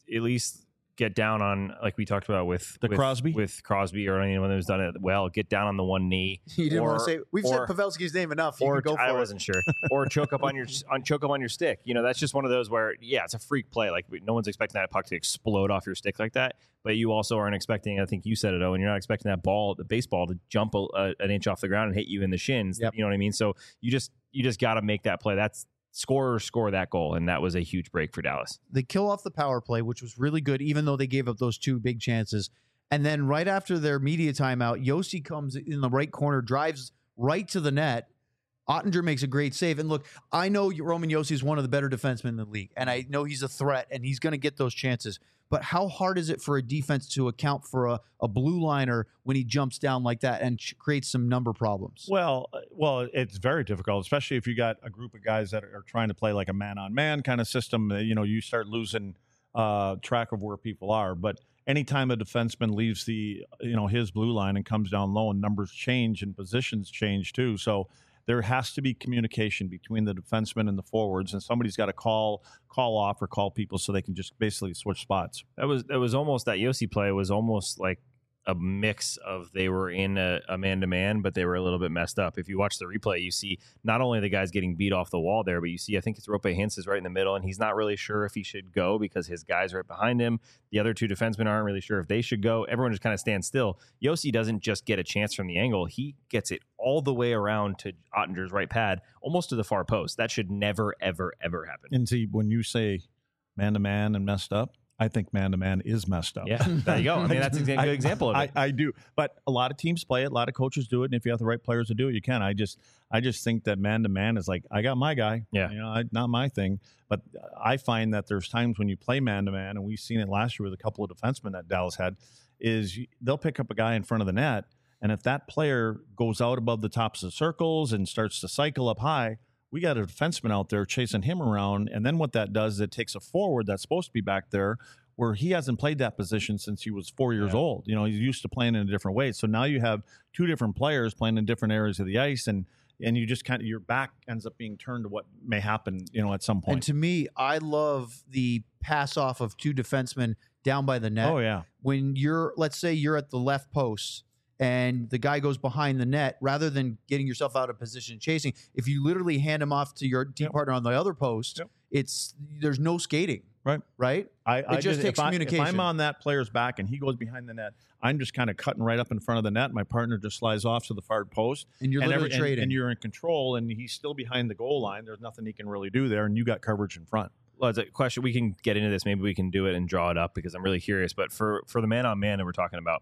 get down on, like we talked about with Crosby, or anyone who's done it well, get down on the one knee. You didn't want to say we've said Pavelski's name enough. You or can go for I wasn't sure. Or choke up on your stick. That's just one of those where it's a freak play. Like no one's expecting that puck to explode off your stick like that. But you also aren't expecting. I think you said it, Owen. You're not expecting that the baseball, to jump an inch off the ground and hit you in the shins. Yep. You know what I mean? So you just got to make that play. That's score that goal, and that was a huge break for Dallas. They kill off the power play, which was really good, even though they gave up those two big chances. And then right after their media timeout, Yossi comes in the right corner, drives right to the net. Ottinger makes a great save. And look, I know Roman Yossi is one of the better defensemen in the league, and I know he's a threat, and he's going to get those chances. But how hard is it for a defense to account for a blue liner when he jumps down like that and creates some number problems? Well, it's very difficult, especially if you got a group of guys that are trying to play like a man-on-man kind of system. You start losing track of where people are. But anytime a defenseman leaves his blue line and comes down low, and numbers change and positions change too. So there has to be communication between the defenseman and the forwards, and somebody's got to call off or call people so they can just basically switch spots. That was almost, that Yossi play was almost like a mix of they were in a man-to-man, but they were a little bit messed up. If you watch the replay, you see not only the guys getting beat off the wall there, but you see, I think it's Rope Hintz is right in the middle, and he's not really sure if he should go because his guy's right behind him. The other two defensemen aren't really sure if they should go. Everyone just kind of stands still. Yossi doesn't just get a chance from the angle. He gets it all the way around to Ottinger's right pad, almost to the far post. That should never, ever, ever happen. And see, when you say man-to-man and messed up, I think man-to-man is messed up. Yeah, there you go. I mean, that's a good example of it. I do. But a lot of teams play it. A lot of coaches do it. And if you have the right players to do it, you can. I just think that man-to-man is like, I got my guy. Yeah. Not my thing. But I find that there's times when you play man-to-man, and we've seen it last year with a couple of defensemen that Dallas had, is they'll pick up a guy in front of the net, and if that player goes out above the tops of the circles and starts to cycle up high, we got a defenseman out there chasing him around. And then what that does is it takes a forward that's supposed to be back there where he hasn't played that position since he was 4 years old. He's used to playing in a different way. So now you have two different players playing in different areas of the ice, and you just kind of, your back ends up being turned to what may happen, at some point. And to me, I love the pass off of two defensemen down by the net. Oh, yeah. When let's say you're at the left post, and the guy goes behind the net, rather than getting yourself out of position and chasing, if you literally hand him off to your team partner on the other post, there's no skating. Right? It just takes communication. If I'm on that player's back and he goes behind the net, I'm just kind of cutting right up in front of the net. My partner just slides off to the far post. And you're literally trading. And you're in control, and he's still behind the goal line. There's nothing he can really do there, and you got coverage in front. Well, it's a question. We can get into this. Maybe we can do it and draw it up because I'm really curious. But for the man-on-man that we're talking about,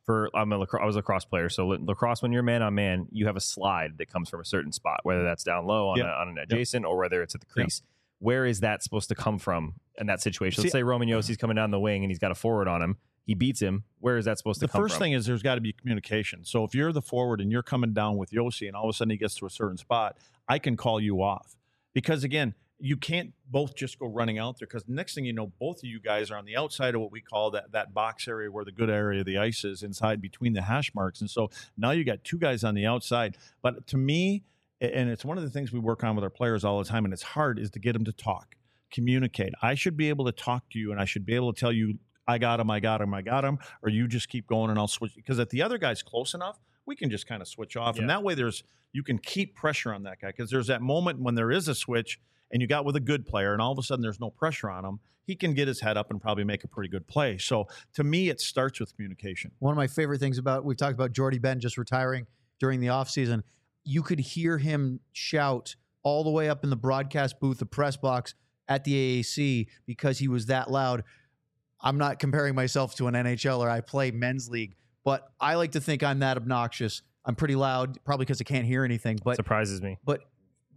I was a lacrosse player. So lacrosse, when you're man-on-man, you have a slide that comes from a certain spot, whether that's down low on an adjacent or whether it's at the crease. Where is that supposed to come from in that situation? Let's say Roman Yossi's coming down the wing and he's got a forward on him. He beats him. Where is that supposed to come from? The first thing is there's got to be communication. So if you're the forward and you're coming down with Yossi and all of a sudden he gets to a certain spot, I can call you off. Because, again, you can't both just go running out there because the next thing you know, both of you guys are on the outside of what we call that box area where the good area of the ice is inside between the hash marks. And so now you got two guys on the outside. But to me, and it's one of the things we work on with our players all the time, and it's hard, is to get them to talk, communicate. I should be able to talk to you, and I should be able to tell you, I got him, or you just keep going and I'll switch. Because if the other guy's close enough, we can just kind of switch off. And that way you can keep pressure on that guy because there's that moment when there is a switch and you got with a good player and all of a sudden there's no pressure on him. He can get his head up and probably make a pretty good play. So to me, it starts with communication. One of my favorite things we've talked about Jordy Ben just retiring during the offseason. You could hear him shout all the way up in the broadcast booth, the press box at the AAC because he was that loud. I'm not comparing myself to an NHLer. I play men's league, but I like to think I'm that obnoxious. I'm pretty loud, probably because I can't hear anything. But surprises me. But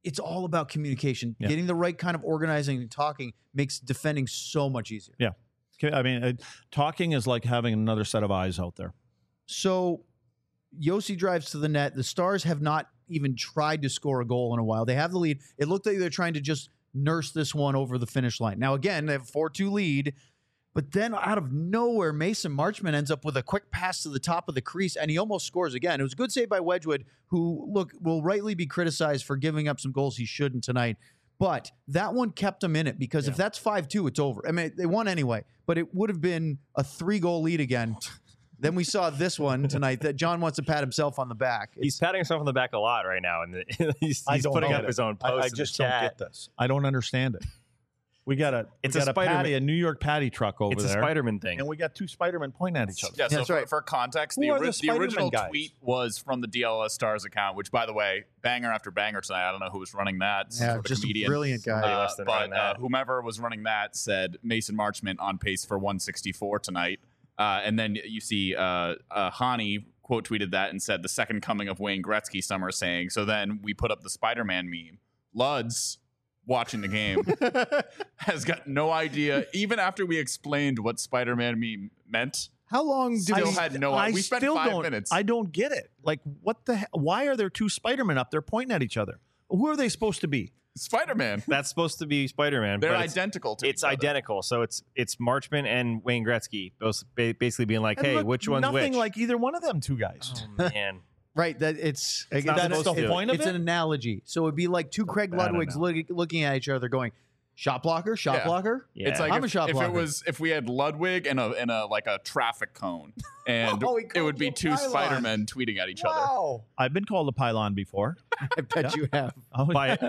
it's all about communication. Yeah. Getting the right kind of organizing and talking makes defending so much easier. Yeah. I mean, talking is like having another set of eyes out there. So Yossi drives to the net. The Stars have not even tried to score a goal in a while. They have the lead. It looked like they're trying to just nurse this one over the finish line. Now, again, they have a 4-2 lead, but then out of nowhere, Mason Marchment ends up with a quick pass to the top of the crease, and he almost scores again. It was a good save by Wedgwood, who, look, will rightly be criticized for giving up some goals he shouldn't tonight. But that one kept him in it, because if that's 5-2, it's over. I mean, they won anyway, but it would have been a 3-goal lead again. Then we saw this one tonight that John wants to pat himself on the back. He's patting himself on the back a lot right now, and he's don't putting get up it. his own post. I in the just don't chat. get this. I don't understand it. We got a It's we a got Spider-Man- patty, a New York patty truck over It's a there, Spider-Man thing. and we got two Spider-Men pointing at each other. Yeah, so That's for, right. for context, Who the, are the the Spider-Man original guys? tweet was from the DLS Stars account, which, by the way, banger after banger tonight. I don't know who was running that. Yeah, sort of just a comedian. brilliant guy. Somebody must have run But that. whomever was running that said Mason Marchment on pace for 164 tonight. And then you see Hani quote tweeted that and said the second coming of Wayne Gretzky, some are saying. So then we put up the Spider-Man meme. Luds, watching the game, has got no idea, even after we explained what Spider-Man meme meant. How long do Still we... had no idea. We spent still 5 don't- minutes. I don't get it. Like, what the hell? Why are there two Spider-Men up there pointing at each other? Who are they supposed to be? Spider-Man. That's supposed to be Spider-Man. They're but it's- identical to It's each other. identical. So it's Marchman and Wayne Gretzky, both basically being like, And "Hey, look, which one's nothing which?" like either one of them two guys. Oh, man. Right, that it's not that's supposed the to. point of It's an analogy. So it'd be like two Craig bad Ludwigs looking at each other, going, "Shot blocker, shot Yeah. blocker." Yeah. It's like I'm a if, shot if blocker. it was if we had Ludwig and a like a traffic cone, and Oh, he it would called be you a two pylon. Spider-Men tweeting at each other. Wow, I've been called a pylon before. I bet you have. Oh,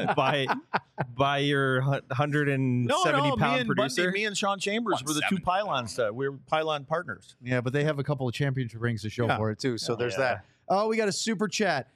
by your 170 pound producer. Me and Sean Chambers were the two 170. pylons. We were pylon partners. Yeah, but they have a couple of championship rings to show Yeah. for it too. So there's Yeah. that. Oh, we got a super chat.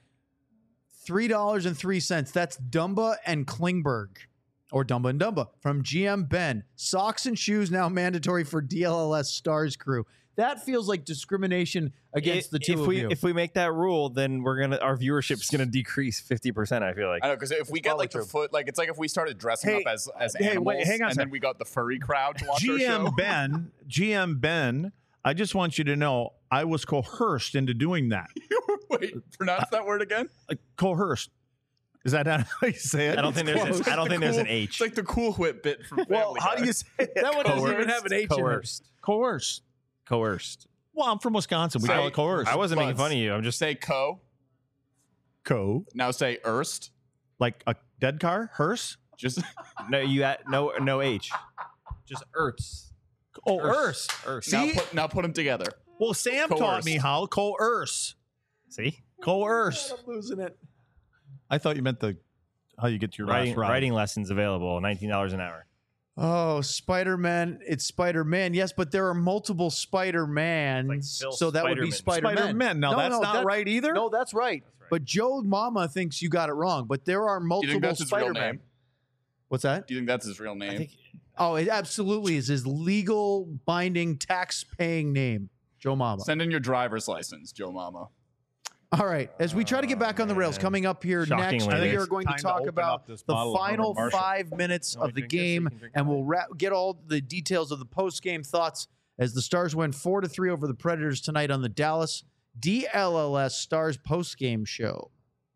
$3.03. That's Dumba and Klingberg. Or Dumba and Dumba from GM Ben. Socks and shoes now mandatory for DLLS Stars crew. That feels like discrimination against the two if of we you. if we make that rule, then our viewership's gonna decrease 50%. I feel like. I know, because if we get probably like true. the foot, like it's like if we started dressing Hey, up as hey, animals, wait, hang on a and sec. then we got the furry crowd to watch our show. GM Ben, I just want you to know I was coerced into doing that. Wait, pronounce that word again. Coerced. Is that how you say it? I don't think there's It's I don't the think there's cool- an H. It's like the Cool Whip bit from Family Well, how do Guy. you say it? that one doesn't even have an H in it. Coerced. Coerced. Coerced. Well, I'm from Wisconsin. We Say- call it coerced. I wasn't making Buds. fun of you. I'm just Say co. Now say erst. like a dead car, hearse. Just no H. Just Ertz. Oh, hearse. Ertz. now put them together. Well, Sam taught Coerced. me how coerce. See, Coerce. I'm losing it. I thought you meant how you get your last ride. writing lessons available, $19 an hour. Oh, Spider-Man. It's Spider-Man. Yes, but there are multiple Spider-Mans. Like Phil so that would be Spider-Man. Spider-Man. Spider-Man. Now, that's not right either? No, that's right. That's right. But Joe Mama thinks you got it wrong. But there are Do you multiple think that's his real Spider-Man. name? What's that? Do you think that's his real name? I think Oh, it absolutely is his legal binding tax-paying name, Joe Mama. Send in your driver's license, Joe Mama. All right, as we try to get back on the rails, man. coming up here next, Shockingly, we it's are going to time to talk open about up this the bottle of final Herman Marshall. 5 minutes You wanna of the drink this? You game, can drink and mine. we'll get all the details of the post-game thoughts as the Stars win 4-3 over the Predators tonight on the Dallas DLLS Stars post-game show.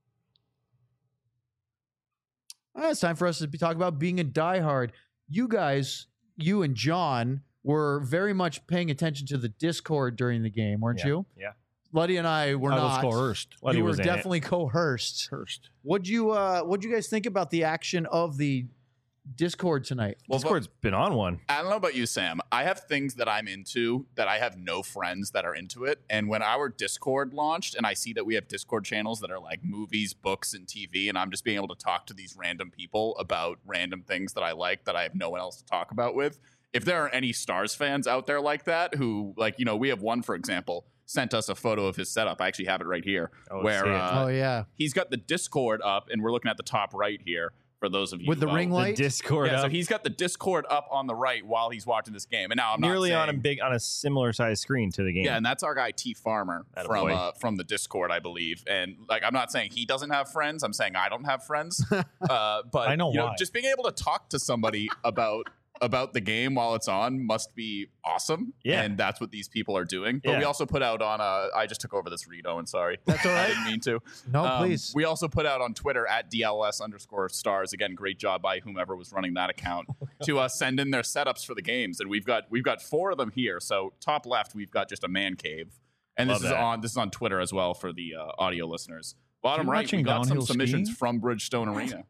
All right, it's time for us to talk about being a diehard. You guys, you and John, were very much paying attention to the Discord during the game, weren't Yeah. you? Yeah. Luddy and I were I not. was coerced. Luddy You were was in it. definitely coerced. Coerced. What'd you guys think about the action of the Discord tonight? Well, Discord's been on one. I don't know about you, Sam. I have things that I'm into that I have no friends that are into it. And when our Discord launched and I see that we have Discord channels that are like movies, books, and TV, and I'm just being able to talk to these random people about random things that I like that I have no one else to talk about with. If there are any Stars fans out there like that who, like, you know, we have one, for example, sent us a photo of his setup. I actually have it right here. Oh, where see it. Oh yeah. he's got the Discord up, and we're looking at the top right here. For those of you With the ring The light? Discord Yeah, up so he's got the Discord up on the right while he's watching this game. And now I'm not nearly saying, on a similar size screen to the game. Yeah, and that's our guy T Farmer Attaboy. from the Discord, I believe. And like, I'm not saying he doesn't have friends. I'm saying I don't have friends. But I know why. just being able to talk to somebody about the game while it's on must be awesome. Yeah. And that's what these people are doing. But Yeah. we also put out on I just took over this read, Owen, sorry. That's all I right. didn't mean to. No, please. We also put out on Twitter at DLS_stars. Again, great job by whomever was running that account to send in their setups for the games. And we've got 4 of them here. So top left, we've got just a man cave. And Love this that. is on Twitter as well for the audio listeners. Bottom You right, we watching got some downhill submissions skiing? from Bridgestone Arena.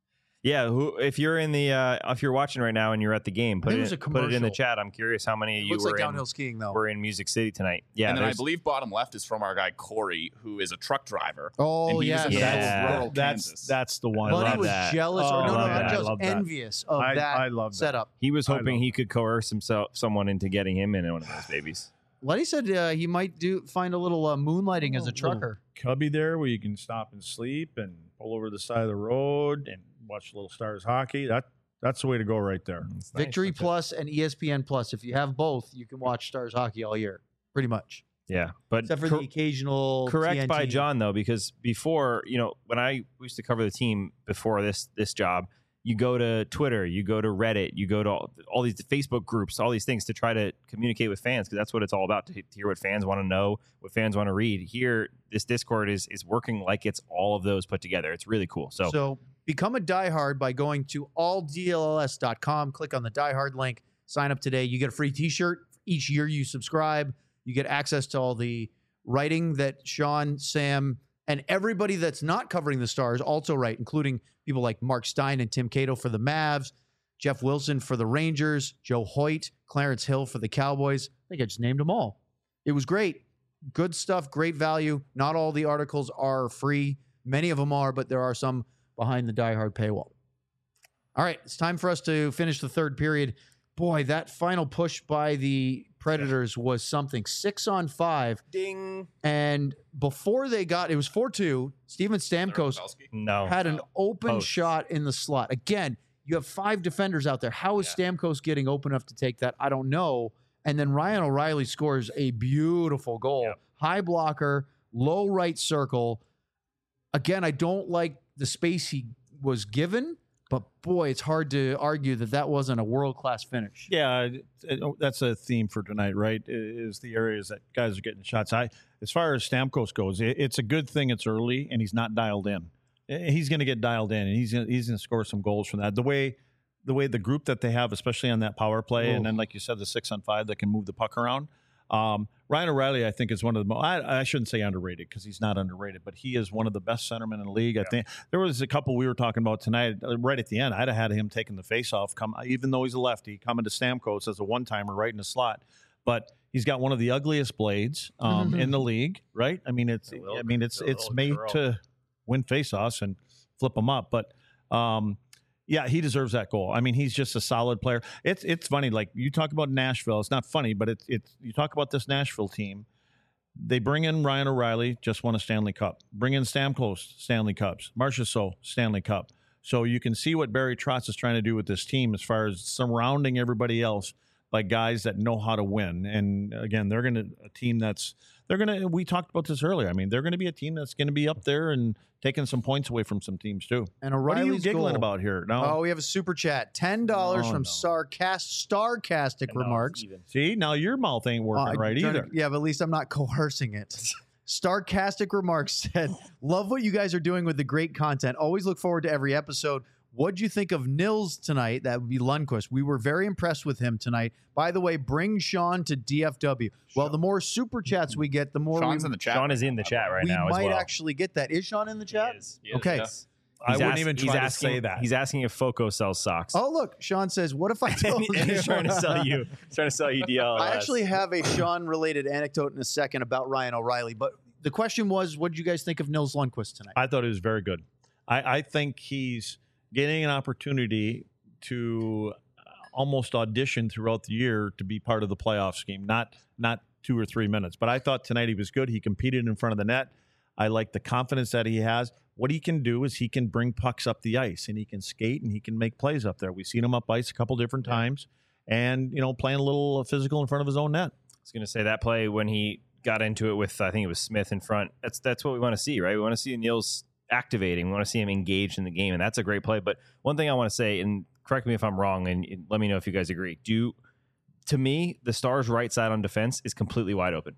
Yeah, if you're in the if you're watching right now and you're at the game, put think it it, was a put it in the commercial. chat. I'm curious how many of you Looks like were downhill skiing, though. in Music City tonight. Yeah, And then I there's- believe bottom left is from our guy Corey, who is a truck driver. Oh, and he yes. was in the middle of Yeah. rural Kansas. That's the one. I Buddy love was that. jealous, Oh, or I no, love not that. I jealous, love that. envious of I that love that. setup. he was I hoping love he could coerce someone into getting him in one of those babies. Letty said he might find a little moonlighting as a trucker. Cubby there where you can stop and sleep and pull over the side of the road and watch Little Stars hockey. That's the way to go right there. It's nice. Victory Plus and ESPN Plus. If you have both, you can watch Stars hockey all year, pretty much, Yeah, but except for the occasional. correct by TNT. John though, because before, when I used to cover the team before this job, you go to Twitter, you go to Reddit, you go to all these Facebook groups, all these things to try to communicate with fans, because that's what it's all about, to hear what fans want to know, what fans want to read. Here, this Discord is working like it's all of those put together. It's really cool. So become a diehard by going to alldlls.com. Click on the diehard link. Sign up today. You get a free T-shirt each year you subscribe. You get access to all the writing that Sean, Sam, and everybody that's not covering the Stars also write, including people like Mark Stein and Tim Cato for the Mavs, Jeff Wilson for the Rangers, Joe Hoyt, Clarence Hill for the Cowboys. I think I just named them all. It was great. Good stuff, great value. Not all the articles are free. Many of them are, but there are some behind the diehard paywall. All right, it's time for us to finish the third period. Boy, that final push by the Predators was something. 6-on-5. ding. And before they got, it was 4-2. Steven Stamkos No. had an open Post. shot in the slot. Again, you have 5 defenders out there. How is Stamkos getting open enough to take that? I don't know. And then Ryan O'Reilly scores a beautiful goal. Yep. High blocker, low right circle. Again, I don't like the space he was given, but boy, it's hard to argue that wasn't a world-class finish. Yeah, that's a theme for tonight, right? Is the areas that guys are getting shots. As far as Stamkos goes, it's a good thing it's early and he's not dialed in. He's going to get dialed in, and he's going to score some goals from that. The way the group that they have, especially on that power play, and then like you said, the 6-on-5 that can move the puck around. Ryan O'Reilly, I think, is one of the most, I shouldn't say underrated because he's not underrated, but he is one of the best centermen in the league. I think there was a couple we were talking about tonight, right at the end. I'd have had him taking the faceoff, even though he's a lefty, coming to Stamkos as a one-timer right in the slot. But he's got one of the ugliest blades in the league, right? I mean, it's made to win faceoffs and flip them up, but yeah, he deserves that goal. I mean, he's just a solid player. It's funny, like you talk about Nashville. It's not funny, but it's you talk about this Nashville team. They bring in Ryan O'Reilly, just won a Stanley Cup. Bring in Stamkos, Stanley Cups. Marchessault, Stanley Cup. So you can see what Barry Trotz is trying to do with this team as far as surrounding everybody else by guys that know how to win. And again, they're we talked about this earlier. I mean, they're going to be a team that's going to be up there and taking some points away from some teams too. And What are you O'Reilly's giggling goal. about here? Oh, No. we have a super chat. $10 from no. Starcastic Remarks. See, now your mouth ain't working right trying to- either. yeah, but at least I'm not coercing it. Starcastic Remarks said, love what you guys are doing with the great content. Always look forward to every episode. What'd you think of Nils tonight? That would be Lundqvist. We were very impressed with him tonight. By the way, bring Sean to DFW. Well, the more super chats we get, the more Sean's in the chat. Sean is in the chat right we now as might well. actually get that. Is Sean in the chat? He is, Okay. yeah. I wouldn't even try to say that. He's asking if Foco sells socks. Oh, look. Sean says, what if I told and you? he's trying to sell you. Trying to sell you DLS. I actually have a Sean-related anecdote in a second about Ryan O'Reilly, but the question was, what did you guys think of Nils Lundqvist tonight? I thought it was very good. I think he's getting an opportunity to almost audition throughout the year to be part of the playoff scheme, not 2 or 3 minutes. But I thought tonight he was good. He competed in front of the net. I like the confidence that he has. What he can do is he can bring pucks up the ice, and he can skate, and he can make plays up there. We've seen him up ice a couple different times, and playing a little physical in front of his own net. I was going to say that play when he got into it with, I think it was Smith in front. That's what we want to see, right? We want to see Nils activating. We want to see him engaged in the game, and that's a great play. But one thing I want to say, and correct me if I'm wrong, and let me know if you guys agree. To me, the Stars' right side on defense is completely wide open.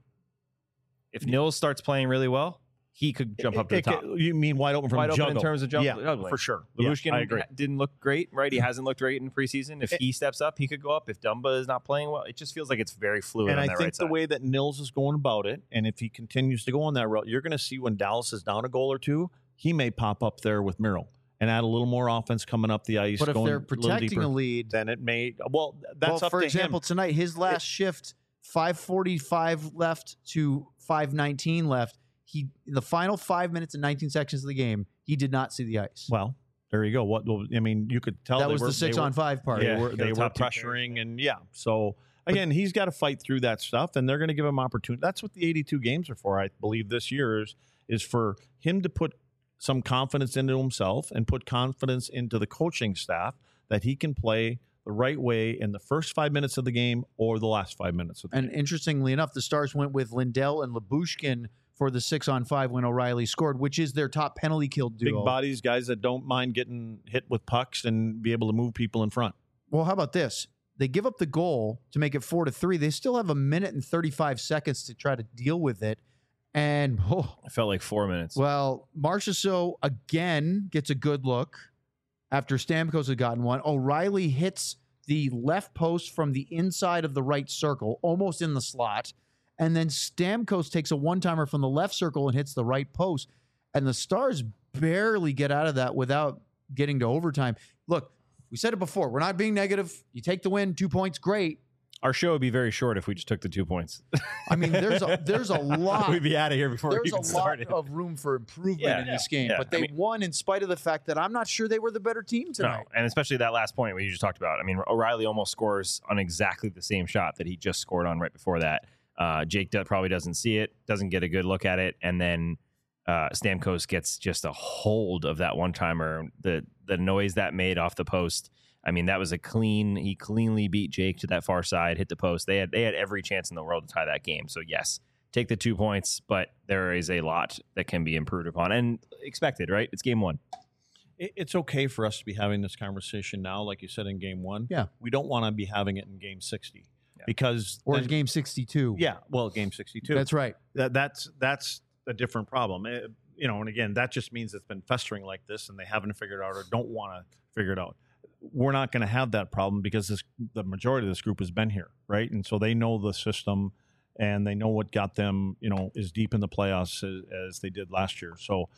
If Nils starts playing really well, he could jump up to the top. You mean wide open from wide juggle? open in terms of juggling. Yeah, for sure. Lyubushkin I agree. didn't look great, right? He hasn't looked great in preseason. If he steps up, he could go up. If Dumba is not playing well, it just feels like it's very fluid. And on I that think right the side. way that Nils is going about it, and if he continues to go on that route, you're going to see when Dallas is down a goal or two, he may pop up there with Miro and add a little more offense coming up the ice. But if going they're a little protecting deeper, a lead, then it may. Well, that's up for to example, him. tonight, his last shift, 5:45 left to 5:19 left. In the final 5 minutes and 19 seconds of the game, he did not see the ice. Well, there you go. You could tell that was the 6-on-5 part. They were top two pressuring, and So again, he's got to fight through that stuff, and they're going to give him opportunity. That's what the 82 games are for. I believe this year is for him to put some confidence into himself and put confidence into the coaching staff that he can play the right way in the first 5 minutes of the game or the last 5 minutes of the game. And interestingly enough, the Stars went with Lindell and Lyubushkin for the 6-on-5 when O'Reilly scored, which is their top penalty kill duo. Big bodies, guys that don't mind getting hit with pucks and be able to move people in front. Well, how about this? They give up the goal to make it 4-3. They still have 1 minute and 35 seconds to try to deal with it. And, it felt like 4 minutes. Well, Marchessault again gets a good look after Stamkos had gotten one. O'Reilly hits the left post from the inside of the right circle, almost in the slot. And then Stamkos takes a one-timer from the left circle and hits the right post. And the Stars barely get out of that without getting to overtime. Look, we said it before. We're not being negative. You take the win, 2 points, great. Our show would be very short if we just took the 2 points. I mean, there's a lot. We'd be out of here before we There's even a lot started. of room for improvement in this game. yeah. But they won in spite of the fact that I'm not sure they were the better team tonight. No, and especially that last point we just talked about. I mean, O'Reilly almost scores on exactly the same shot that he just scored on right before that. Jake probably doesn't see it, doesn't get a good look at it, and then Stamkos gets just a hold of that one-timer. The noise that made off the post, I mean, that was he cleanly beat Jake to that far side, hit the post. They had every chance in the world to tie that game. So yes, take the 2 points, but there is a lot that can be improved upon and expected, right? It's game one. It's okay for us to be having this conversation now, like you said in game one. Yeah. We don't want to be having it in game 60 because Or game 62. Yeah, well, game 62. That's right. That's a different problem. And again, that just means it's been festering like this, and they haven't figured it out or don't want to figure it out. We're not going to have that problem because the majority of this group has been here, right? And so they know the system, and they know what got them, as deep in the playoffs as they did last year. So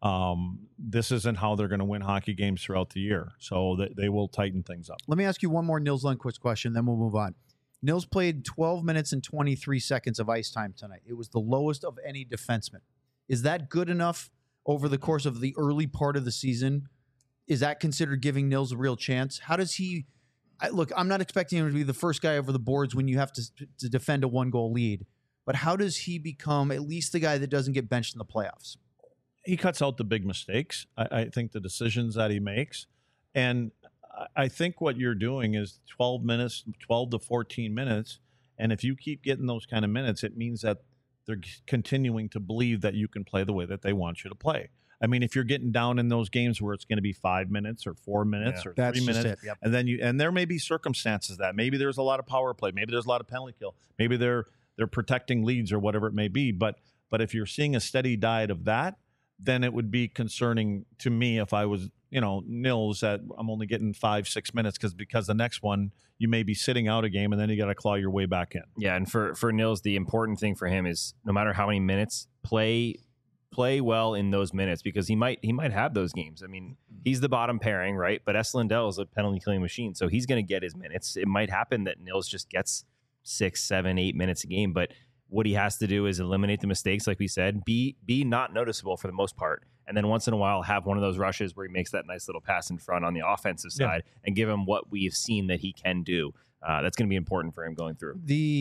this isn't how they're going to win hockey games throughout the year. So they will tighten things up. Let me ask you one more Nils Lundqvist question, then we'll move on. Nils played 12 minutes and 23 seconds of ice time tonight. It was the lowest of any defenseman. Is that good enough over the course of the early part of the season? Is that considered giving Nils a real chance? How does he look? I'm not expecting him to be the first guy over the boards when you have to defend a 1-goal lead, but how does he become at least the guy that doesn't get benched in the playoffs? He cuts out the big mistakes. I think the decisions that he makes, and I think what you're doing is 12 to 14 minutes, and if you keep getting those kind of minutes, it means that they're continuing to believe that you can play the way that they want you to play. I mean, if you're getting down in those games where it's going to be 5 minutes or 4 minutes or 3 minutes, Yep. and there may be circumstances that maybe there's a lot of power play, maybe there's a lot of penalty kill, maybe they're protecting leads or whatever it may be. But if you're seeing a steady diet of that, then it would be concerning to me if I was, Nils, that I'm only getting 5-6 minutes because the next one you may be sitting out a game and then you got to claw your way back in. Yeah, and for Nils, the important thing for him is no matter how many minutes, play well in those minutes because he might have those games. I mean, he's the bottom pairing, right? But S. Lindell is a penalty killing machine, so he's going to get his minutes. It might happen that Nils just gets 6, 7, 8 minutes a game, but what he has to do is eliminate the mistakes, like we said, be not noticeable for the most part, and then once in a while have one of those rushes where he makes that nice little pass in front on the offensive side and give him what we've seen that he can do. That's going to be important for him going through. The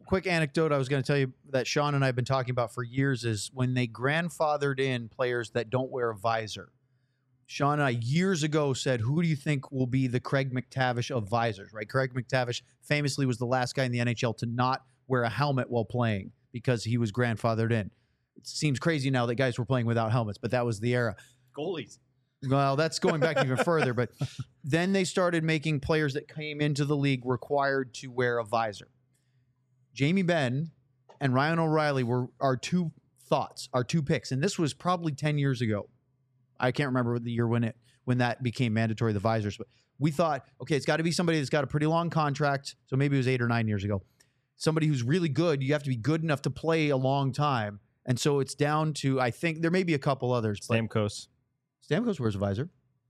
quick anecdote I was going to tell you that Sean and I have been talking about for years is when they grandfathered in players that don't wear a visor. Sean and I years ago said, who do you think will be the Craig McTavish of visors, right? Craig McTavish famously was the last guy in the NHL to not wear a helmet while playing because he was grandfathered in. It seems crazy now that guys were playing without helmets, but that was the era. Goalies. Well, that's going back even further, but then they started making players that came into the league required to wear a visor. Jamie Benn and Ryan O'Reilly were our two thoughts, our two picks, and this was probably 10 years ago. I can't remember the year when that became mandatory, the visors, but we thought, okay, it's got to be somebody that's got a pretty long contract, so maybe it was 8 or 9 years ago. Somebody who's really good. You have to be good enough to play a long time, and so it's down to, I think, there may be a couple others. Stamkos. Stamkos wears a visor.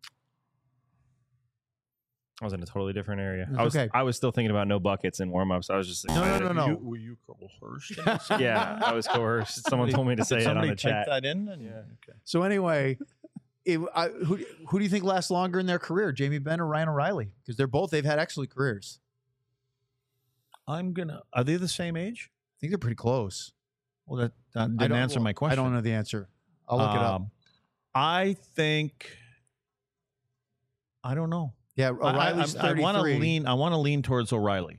I was in a totally different area. Okay. I was still thinking about no buckets and warm-ups. I was just excited. No. Were you coerced? Yeah, I was coerced. Someone told me to say it on the chat. That in? Yeah. Okay. So anyway, who do you think lasts longer in their career, Jamie Benn or Ryan O'Reilly? Because they've had excellent careers. Are they the same age? I think they're pretty close. Well, that didn't answer my question. I don't know the answer. I'll look it up. I think, I don't know. Yeah, O'Reilly's 33. I want to lean towards O'Reilly.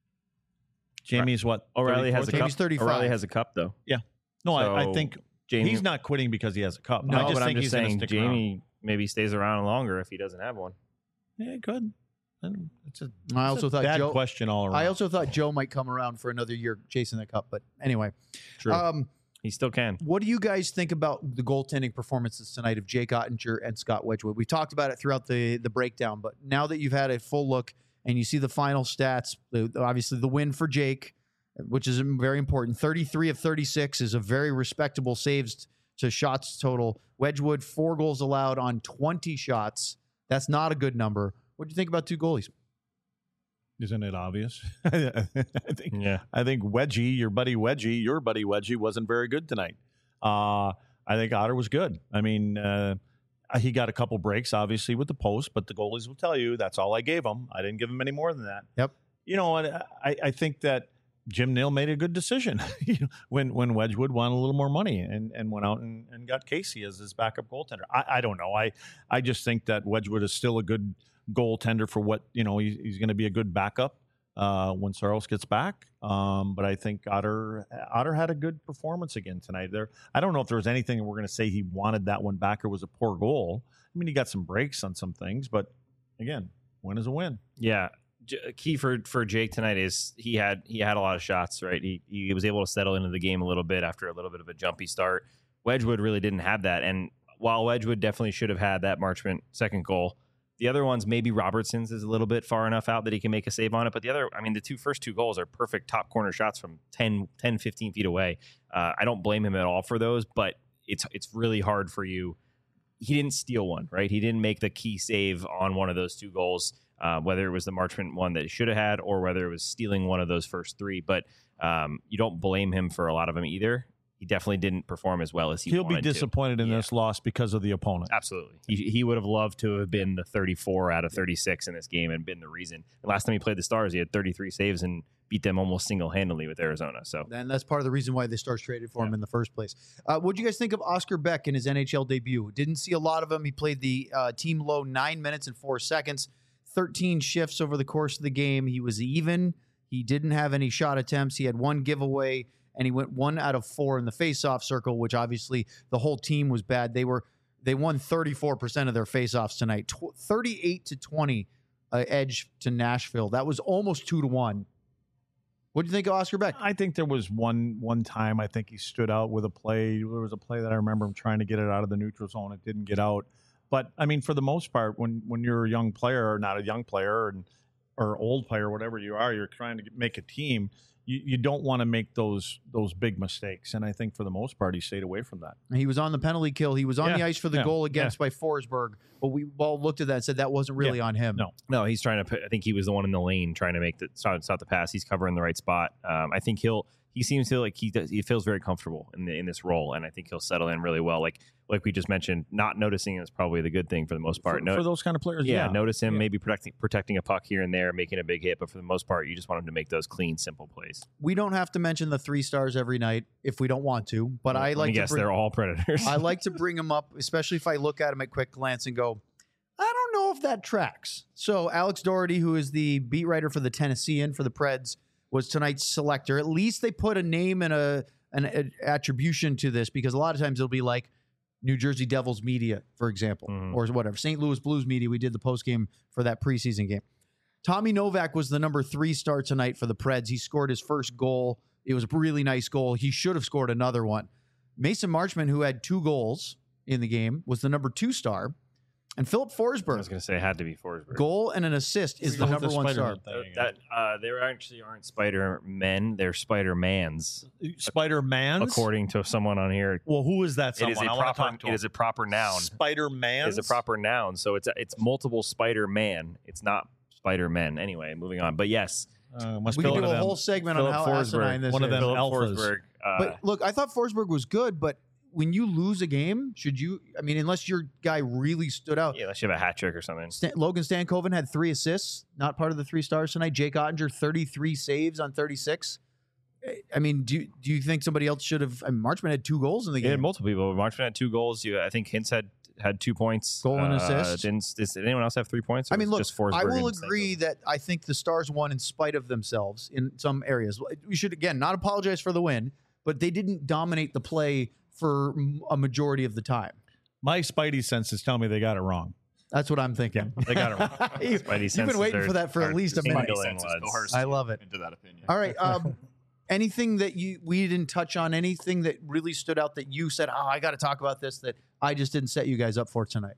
Jamie's what? O'Reilly has a cup. Jamie's 35. O'Reilly has a cup, though. Yeah. No, I So, think Jamie, he's not quitting because he has a cup. No, I just but think I'm he's just going to saying stick Jamie maybe stays around longer if he doesn't have one. around. Yeah, good. It's a I also thought bad Joe. question all around. I also thought Joe might come around for another year chasing the cup, but anyway. True. He still can. What do you guys think about the goaltending performances tonight of Jake Ottinger and Scott Wedgwood? We talked about it throughout the breakdown, but now that you've had a full look and you see the final stats, obviously the win for Jake, which is very important. 33 of 36 is a very respectable saves to shots total. Wedgwood, 4 goals allowed on 20 shots. That's not a good number. What do you think about 2 goalies? Isn't it obvious? I think Wedgie, your buddy Wedgie, wasn't very good tonight. I think Otter was good. I mean, he got a couple breaks, obviously, with the post, but the goalies will tell you that's all I gave him. I didn't give him any more than that. Yep. You know, and I think that Jim Nill made a good decision when Wedgwood wanted a little more money and went out and got Casey as his backup goaltender. I don't know. I just think that Wedgwood is still a good goaltender for what, he's going to be a good backup when Saros gets back. But I think Otter had a good performance again tonight. I don't know if there was anything we're going to say he wanted that one back or was a poor goal. I mean, he got some breaks on some things, but again, win is a win. Yeah. Key for Jake tonight is he had a lot of shots, right? He was able to settle into the game a little bit after a little bit of a jumpy start. Wedgwood really didn't have that. And while Wedgwood definitely should have had that Marchment second goal, the other ones, maybe Robertson's is a little bit far enough out that he can make a save on it. But the first two goals are perfect top corner shots from 10, 15 feet away. I don't blame him at all for those, but it's really hard for you. He didn't steal one, right? He didn't make the key save on one of those 2 goals, whether it was the Marchment one that he should have had or whether it was stealing one of those first 3. But you don't blame him for a lot of them either. He definitely didn't perform as well as he wanted to. He'll be disappointed in this loss because of the opponent. Absolutely. He would have loved to have been the 34 out of 36 in this game and been the reason. And last time he played the Stars, he had 33 saves and beat them almost single-handedly with Arizona. So, and that's part of the reason why the Stars traded for him in the first place. What do you guys think of Oscar Beck in his NHL debut? Didn't see a lot of him. He played the team low 9 minutes and 4 seconds, 13 shifts over the course of the game. He was even. He didn't have any shot attempts. He had 1 giveaway, and he went 1 out of 4 in the faceoff circle, which obviously the whole team was bad. They won 34% of their faceoffs tonight, 38-20 edge to Nashville. That was almost 2-1. What do you think of Oscar Beck? I think there was one time I think he stood out with a play. There was a play that I remember him trying to get it out of the neutral zone. It didn't get out. But, I mean, for the most part, when you're a young player or not a young player or old player, whatever you are, you're trying to make a team, you don't want to make those big mistakes. And I think for the most part, he stayed away from that. He was on the penalty kill. He was on the ice for the goal against by Forsberg. But we all looked at that and said that wasn't really on him. No, he's trying to I think he was the one in the lane trying to make stop the pass. He's covering the right spot. I think he seems to like he feels very comfortable in this role, and I think he'll settle in really well. Like we just mentioned, not noticing is probably the good thing for the most part. For those kind of players, notice him maybe protecting a puck here and there, making a big hit, but for the most part, you just want him to make those clean, simple plays. We don't have to mention the 3 stars every night if we don't want to, but I like to they're all Predators. I like to bring them up, especially if I look at them at quick glance and go, I don't know if that tracks. So Alex Doherty, who is the beat writer for the Tennessean for the Preds, was tonight's selector. At least they put a name and an attribution to this, because a lot of times it'll be like New Jersey Devils media, for example, or whatever. St. Louis Blues media. We did the postgame for that preseason game. Tommy Novak was the number 3 star tonight for the Preds. He scored his first goal. It was a really nice goal. He should have scored another one. Mason Marchment, who had 2 goals in the game, was the number 2 star. And Philip Forsberg. I was going to say it had to be Forsberg. Goal and an assist is the number 1 star. They actually aren't Spider-Men. They're Spider-Mans. Spider-Mans? According to someone on here. Well, who is that someone? It is a proper noun. Spider-Man? It is a proper noun. So it's multiple Spider-Man. It's not Spider-Men. Anyway, moving on. But yes. We can do a whole segment on how asinine this is. One of them alphas. Forsberg. But look, I thought Forsberg was good, but when you lose a game, unless your guy really stood out. Yeah, unless you have a hat trick or something. Logan Stankoven had 3 assists, not part of the 3 stars tonight. Jake Ottinger, 33 saves on 36. I mean, do you think somebody else should have? Marchment had 2 goals in the game. He had multiple people. Marchment had 2 goals. I think Hintz had 2 points. Goal and assist. Did anyone else have 3 points? I mean, look, just Forsberg I will agree that I think the Stars won in spite of themselves in some areas. We should, again, not apologize for the win, but they didn't dominate the play for a majority of the time. My spidey senses tell me they got it wrong. That's what I'm thinking. They got it wrong. You've been waiting for that for at least a minute. I love it. Into that opinion. All right. Anything that we didn't touch on, anything that really stood out that you said, I got to talk about this, that I just didn't set you guys up for tonight?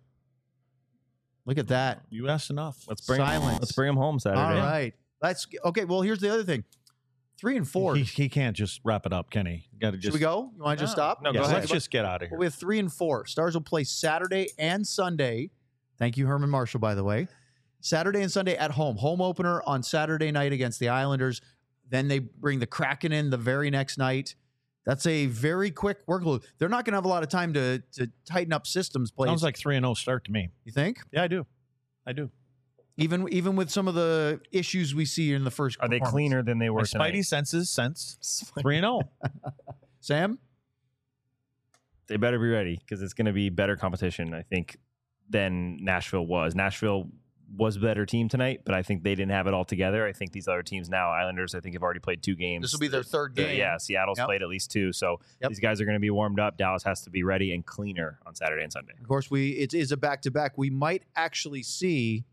Look at that. You asked enough. Let's bring him home Saturday. All right. Okay. Well, here's the other thing. 3 and 4. He can't just wrap it up, can he? Should we go? You want to just stop? No, go ahead. Let's just get out of here. We have 3 and 4. Stars will play Saturday and Sunday. Thank you, Herman Marshall, by the way. Saturday and Sunday at home. Home opener on Saturday night against the Islanders. Then they bring the Kraken in the very next night. That's a very quick workload. They're not going to have a lot of time to tighten up systems plays. Sounds like 3-0 start to me. You think? Yeah, I do. Even with some of the issues we see in the first. Are they cleaner than they were tonight? Spidey senses sense 3-0. Sam? They better be ready, because it's going to be better competition, I think, than Nashville was. Nashville was a better team tonight, but I think they didn't have it all together. I think these other teams now, Islanders, I think have already played 2 games. This will be their 3rd game. Yeah, Seattle's played at least 2. So these guys are going to be warmed up. Dallas has to be ready and cleaner on Saturday and Sunday. Of course, it is a back-to-back. We might actually see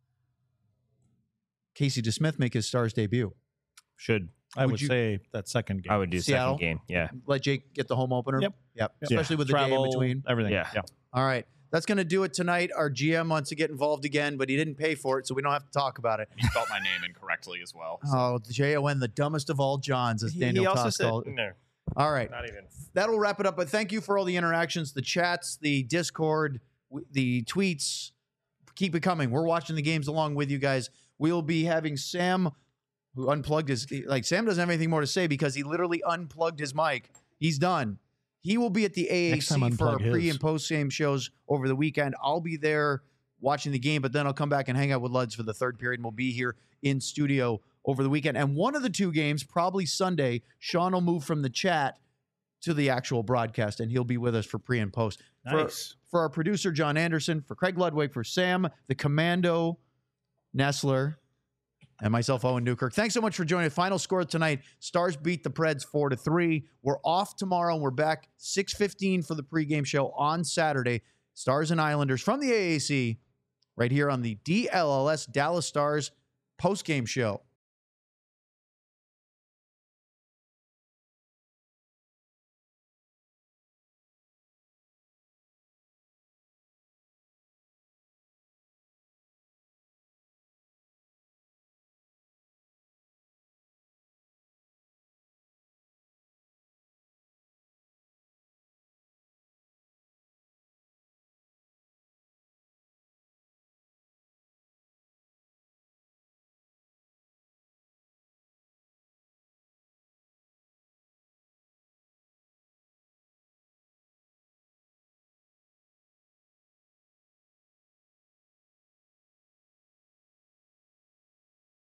Casey DeSmith make his Stars debut. I would say that second game. I would do Seattle? second game. Yeah. Let Jake get the home opener. Yep. Especially with the day in between. Everything. Yeah. All right. That's going to do it tonight. Our GM wants to get involved again, but he didn't pay for it, so we don't have to talk about it. He spelled my name incorrectly as well. Oh, Jon, the dumbest of all Johns, as Daniel He also Toss said, called it. no, All right. not even. That'll wrap it up, but thank you for all the interactions, the chats, the Discord, the tweets. Keep it coming. We're watching the games along with you guys. We'll be having Sam, who unplugged Sam doesn't have anything more to say because he literally unplugged his mic. He's done. He will be at the AAC for our pre and post game shows over the weekend. I'll be there watching the game, but then I'll come back and hang out with Luds for the 3rd period, and we'll be here in studio over the weekend. And one of the 2 games, probably Sunday, Sean will move from the chat to the actual broadcast, and he'll be with us for pre and post. Nice. For our producer, John Anderson, for Craig Ludwig, for Sam, the Commando, Nestler, and myself, Owen Newkirk. Thanks so much for joining. Final score tonight, Stars beat the Preds 4-3. We're off tomorrow, and we're back 6:15 for the pregame show on Saturday. Stars and Islanders from the AAC right here on the DLLS Dallas Stars postgame show.